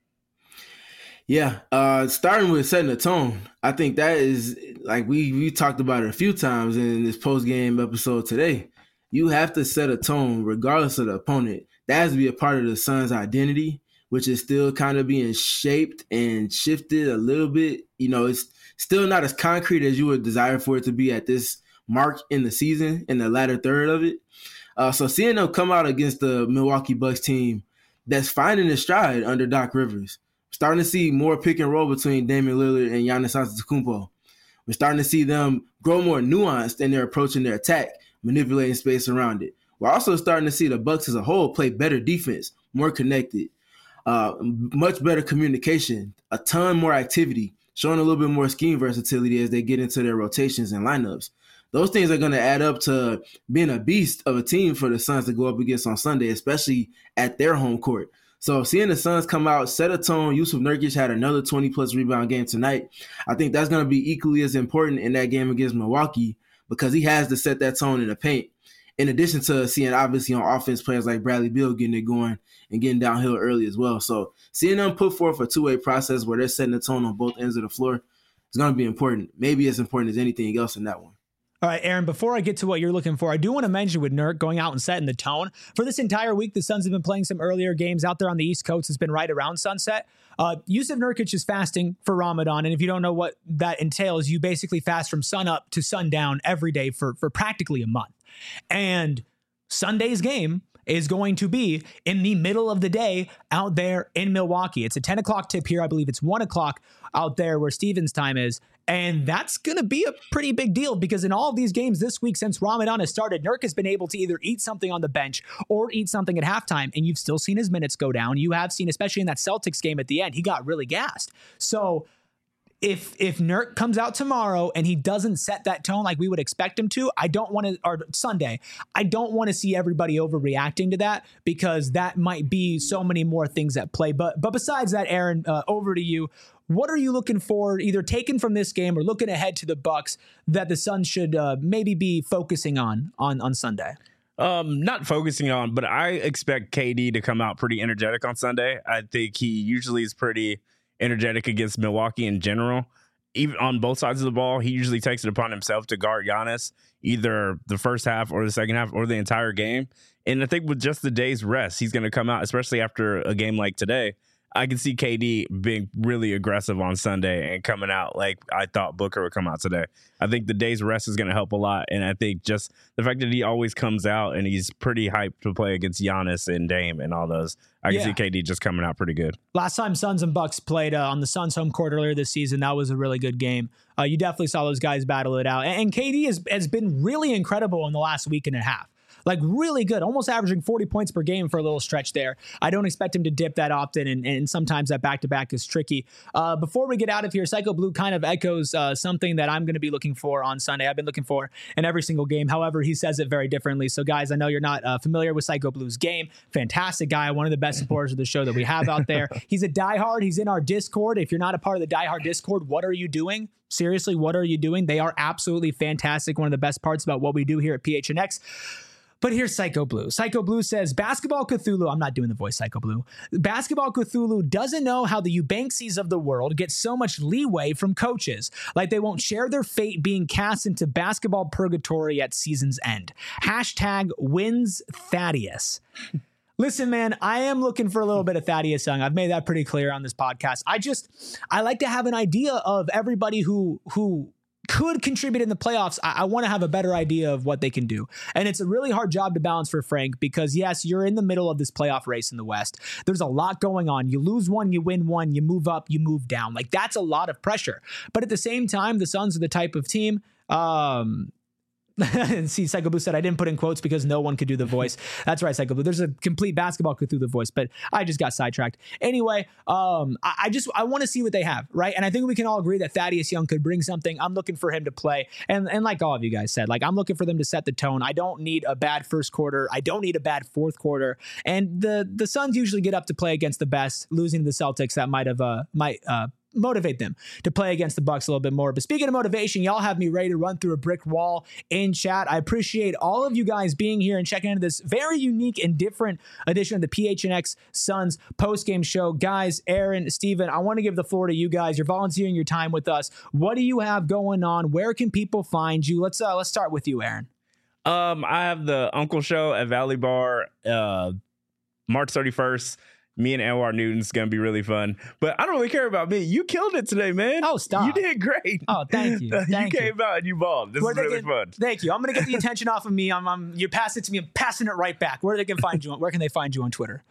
Yeah, starting with setting the tone. I think that is, like we talked about it a few times in this post-game episode today. You have to set a tone regardless of the opponent. That has to be a part of the Suns' identity, which is still kind of being shaped and shifted a little bit. You know, it's still not as concrete as you would desire for it to be at this mark in the season, in the latter third of it. So seeing them come out against the Milwaukee Bucks team that's finding its stride under Doc Rivers, starting to see more pick and roll between Damian Lillard and Giannis Antetokounmpo. We're starting to see them grow more nuanced in their approach and their attack, manipulating space around it. We're also starting to see the Bucks as a whole play better defense, more connected, much better communication, a ton more activity, showing a little bit more scheme versatility as they get into their rotations and lineups. Those things are going to add up to being a beast of a team for the Suns to go up against on Sunday, especially at their home court. So seeing the Suns come out, set a tone. Yusuf Nurkic had another 20-plus rebound game tonight. I think that's going to be equally as important in that game against Milwaukee because he has to set that tone in the paint. In addition to seeing, obviously, on offense, players like Bradley Beal getting it going and getting downhill early as well. So seeing them put forth a two-way process where they're setting the tone on both ends of the floor is going to be important. Maybe as important as anything else in that one. All right, Aaron, before I get to what you're looking for, I do want to mention with Nurk going out and setting the tone. For this entire week, the Suns have been playing some earlier games out there on the East Coast. It's been right around sunset. Yusuf Nurkic is fasting for Ramadan, and if you don't know what that entails, you basically fast from sun up to sundown every day for practically a month. And Sunday's game is going to be in the middle of the day out there in Milwaukee. It's a 10 o'clock tip here. I believe it's 1 o'clock out there where Steven's time is. And that's going to be a pretty big deal because in all of these games this week since Ramadan has started, Nurk has been able to either eat something on the bench or eat something at halftime, and you've still seen his minutes go down. You have seen, especially in that Celtics game at the end, he got really gassed. So if Nurk comes out tomorrow and he doesn't set that tone like we would expect him to, or Sunday, I don't want to see everybody overreacting to that because that might be so many more things at play. But besides that, Aaron, over to you. What are you looking for, either taken from this game or looking ahead to the Bucks, that the Suns should maybe be focusing on Sunday? Not focusing on, but I expect KD to come out pretty energetic on Sunday. I think he usually is pretty energetic against Milwaukee in general. Even on both sides of the ball, he usually takes it upon himself to guard Giannis, either the first half or the second half or the entire game. And I think with just the day's rest, he's going to come out, especially after a game like today. I can see KD being really aggressive on Sunday and coming out like I thought Booker would come out today. I think the day's rest is going to help a lot. And I think just the fact that he always comes out and he's pretty hyped to play against Giannis and Dame and all those, I can see KD just coming out pretty good. Last time Suns and Bucks played on the Suns home court earlier this season, that was a really good game. You definitely saw those guys battle it out. And KD has been really incredible in the last week and a half. Like really good, almost averaging 40 points per game for a little stretch there. I don't expect him to dip that often, and sometimes that back-to-back is tricky. Before we get out of here, Psycho Blue kind of echoes something that I'm going to be looking for on Sunday. I've been looking for in every single game. However, he says it very differently. So, guys, I know you're not familiar with Psycho Blue's game. Fantastic guy, one of the best supporters of the show that we have out there. He's a diehard. He's in our Discord. If you're not a part of the diehard Discord, what are you doing? Seriously, what are you doing? They are absolutely fantastic. One of the best parts about what we do here at PHNX. But here's Psycho Blue. Psycho Blue says, Basketball Cthulhu, I'm not doing the voice Psycho Blue. Basketball Cthulhu doesn't know how the Eubanksies of the world get so much leeway from coaches. Like they won't share their fate being cast into basketball purgatory at season's end. Hashtag wins Thaddeus. Listen, man, I am looking for a little bit of Thaddeus Young. I've made that pretty clear on this podcast. I like to have an idea of everybody who could contribute in the playoffs. I want to have a better idea of what they can do. And it's a really hard job to balance for Frank because, yes, you're in the middle of this playoff race in the West. There's a lot going on. You lose one, you win one, you move up, you move down. Like, that's a lot of pressure. But at the same time, the Suns are the type of team, And see, Psycho Blue said I didn't put in quotes because no one could do the voice. That's right, Psycho Blue. There's a complete basketball Cthulhu voice, but I just got sidetracked. Anyway, I want to see what they have, right? And I think we can all agree that Thaddeus Young could bring something. I'm looking for him to play, and like all of you guys said, like I'm looking for them to set the tone. I don't need a bad first quarter. I don't need a bad fourth quarter. And the Suns usually get up to play against the best. Losing to the Celtics, that might motivate them to play against the Bucks a little bit more. But speaking of motivation, y'all have me ready to run through a brick wall in chat. I appreciate all of you guys being here and checking into this very unique and different edition of the PHNX Suns post-game show. Guys, Aaron, Steven, I want to give the floor to you guys. You're volunteering your time with us. What do you have going on? Where can people find you? Let's start with you, Aaron. I have the Uncle Show at Valley Bar, March 31st. Me and Anwar Newton's going to be really fun. But I don't really care about me. You killed it today, man. Oh, stop. You did great. Oh, thank you. You came out and you balled. This is really fun. Thank you. I'm going to get the attention off of me. You pass it to me. I'm passing it right back. Where can they find you on Twitter?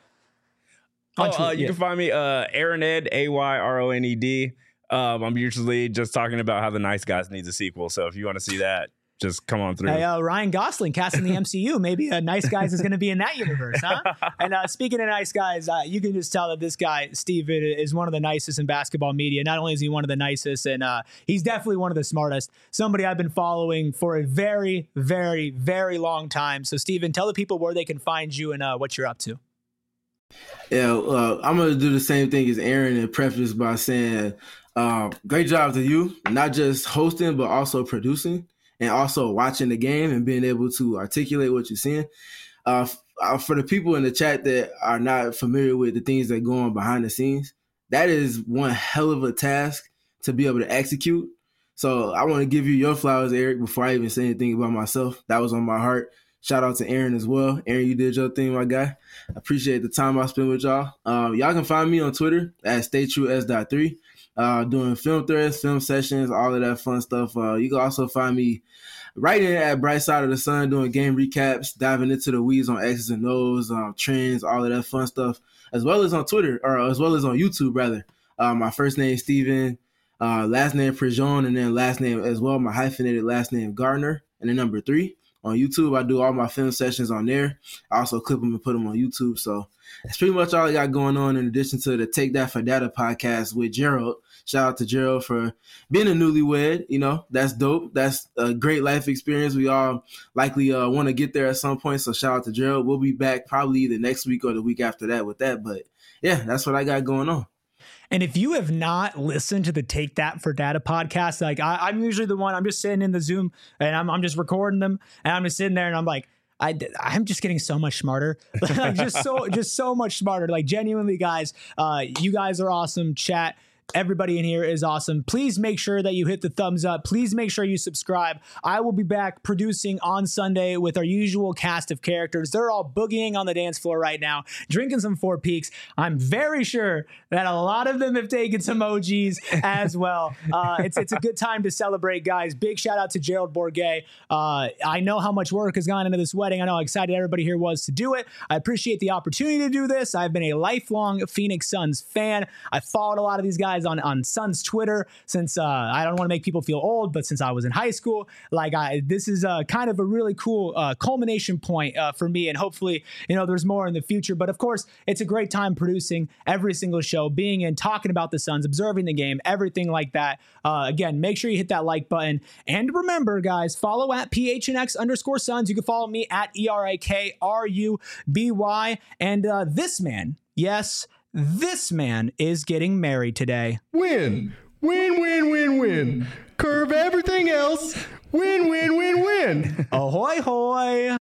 You can find me Aaron Ed, AYRONED. I'm usually just talking about how The Nice Guys needs a sequel. So if you want to see that, just come on through. Hey, Ryan Gosling casting the MCU. Maybe Nice Guys is going to be in that universe, huh? And speaking of Nice Guys, you can just tell that this guy, Steven, is one of the nicest in basketball media. Not only is he one of the nicest, and he's definitely one of the smartest. Somebody I've been following for a very, very, very long time. So, Steven, tell the people where they can find you and what you're up to. Yeah, I'm going to do the same thing as Aaron and preface by saying great job to you, not just hosting, but also producing. And also watching the game and being able to articulate what you're seeing. For the people in the chat that are not familiar with the things that go on behind the scenes, that is one hell of a task to be able to execute. So I want to give you your flowers, Eric, before I even say anything about myself. That was on my heart. Shout out to Aaron as well. Aaron, you did your thing, my guy. I appreciate the time I spent with y'all. Y'all can find me on Twitter at StayTrueS.3. Doing film threads, film sessions, all of that fun stuff. You can also find me writing at Bright Side of the Sun, doing game recaps, diving into the weeds on X's and O's, trends, all of that fun stuff, as well as on Twitter, or as well as on YouTube, rather. My first name is Steven, last name Prejean, and then last name as well, my hyphenated last name Gardner, and then number 3. On YouTube, I do all my film sessions on there. I also clip them and put them on YouTube. So that's pretty much all I got going on, in addition to the Take That for Data podcast with Gerald. Shout out to Gerald for being a newlywed. You know, that's dope. That's a great life experience. We all likely want to get there at some point. So shout out to Gerald. We'll be back probably either next week or the week after that with that. But yeah, that's what I got going on. And if you have not listened to the Take That for Data podcast, like I'm usually the one, I'm just sitting in the Zoom and I'm just recording them, and I'm just sitting there and I'm like, I'm just getting so much smarter, like just so much smarter. Like genuinely, guys, you guys are awesome. Chat. Everybody in here is awesome. Please make sure that you hit the thumbs up. Please make sure you subscribe. I will be back producing on Sunday with our usual cast of characters. They're all boogieing on the dance floor right now, drinking some Four Peaks. I'm very sure that a lot of them have taken some OGs as well. It's a good time to celebrate, guys. Big shout out to Gerald Bourget. I know how much work has gone into this wedding. I know how excited everybody here was to do it. I appreciate the opportunity to do this. I've been a lifelong Phoenix Suns fan. I followed a lot of these guys on Suns Twitter since I don't want to make people feel old, but since I was in high school, this is kind of a really cool culmination point for me, and hopefully there's more in the future. But of course, it's a great time producing every single show, being in, talking about the Suns, observing the game, everything like that. Again, make sure you hit that like button, and remember, guys, follow at PHNX_Suns. You can follow me at ERIKRUBY, and this man, yes, this man is getting married today. Win. Win, win, win, win. Curve everything else. Win, win, win, win. Ahoy, hoy.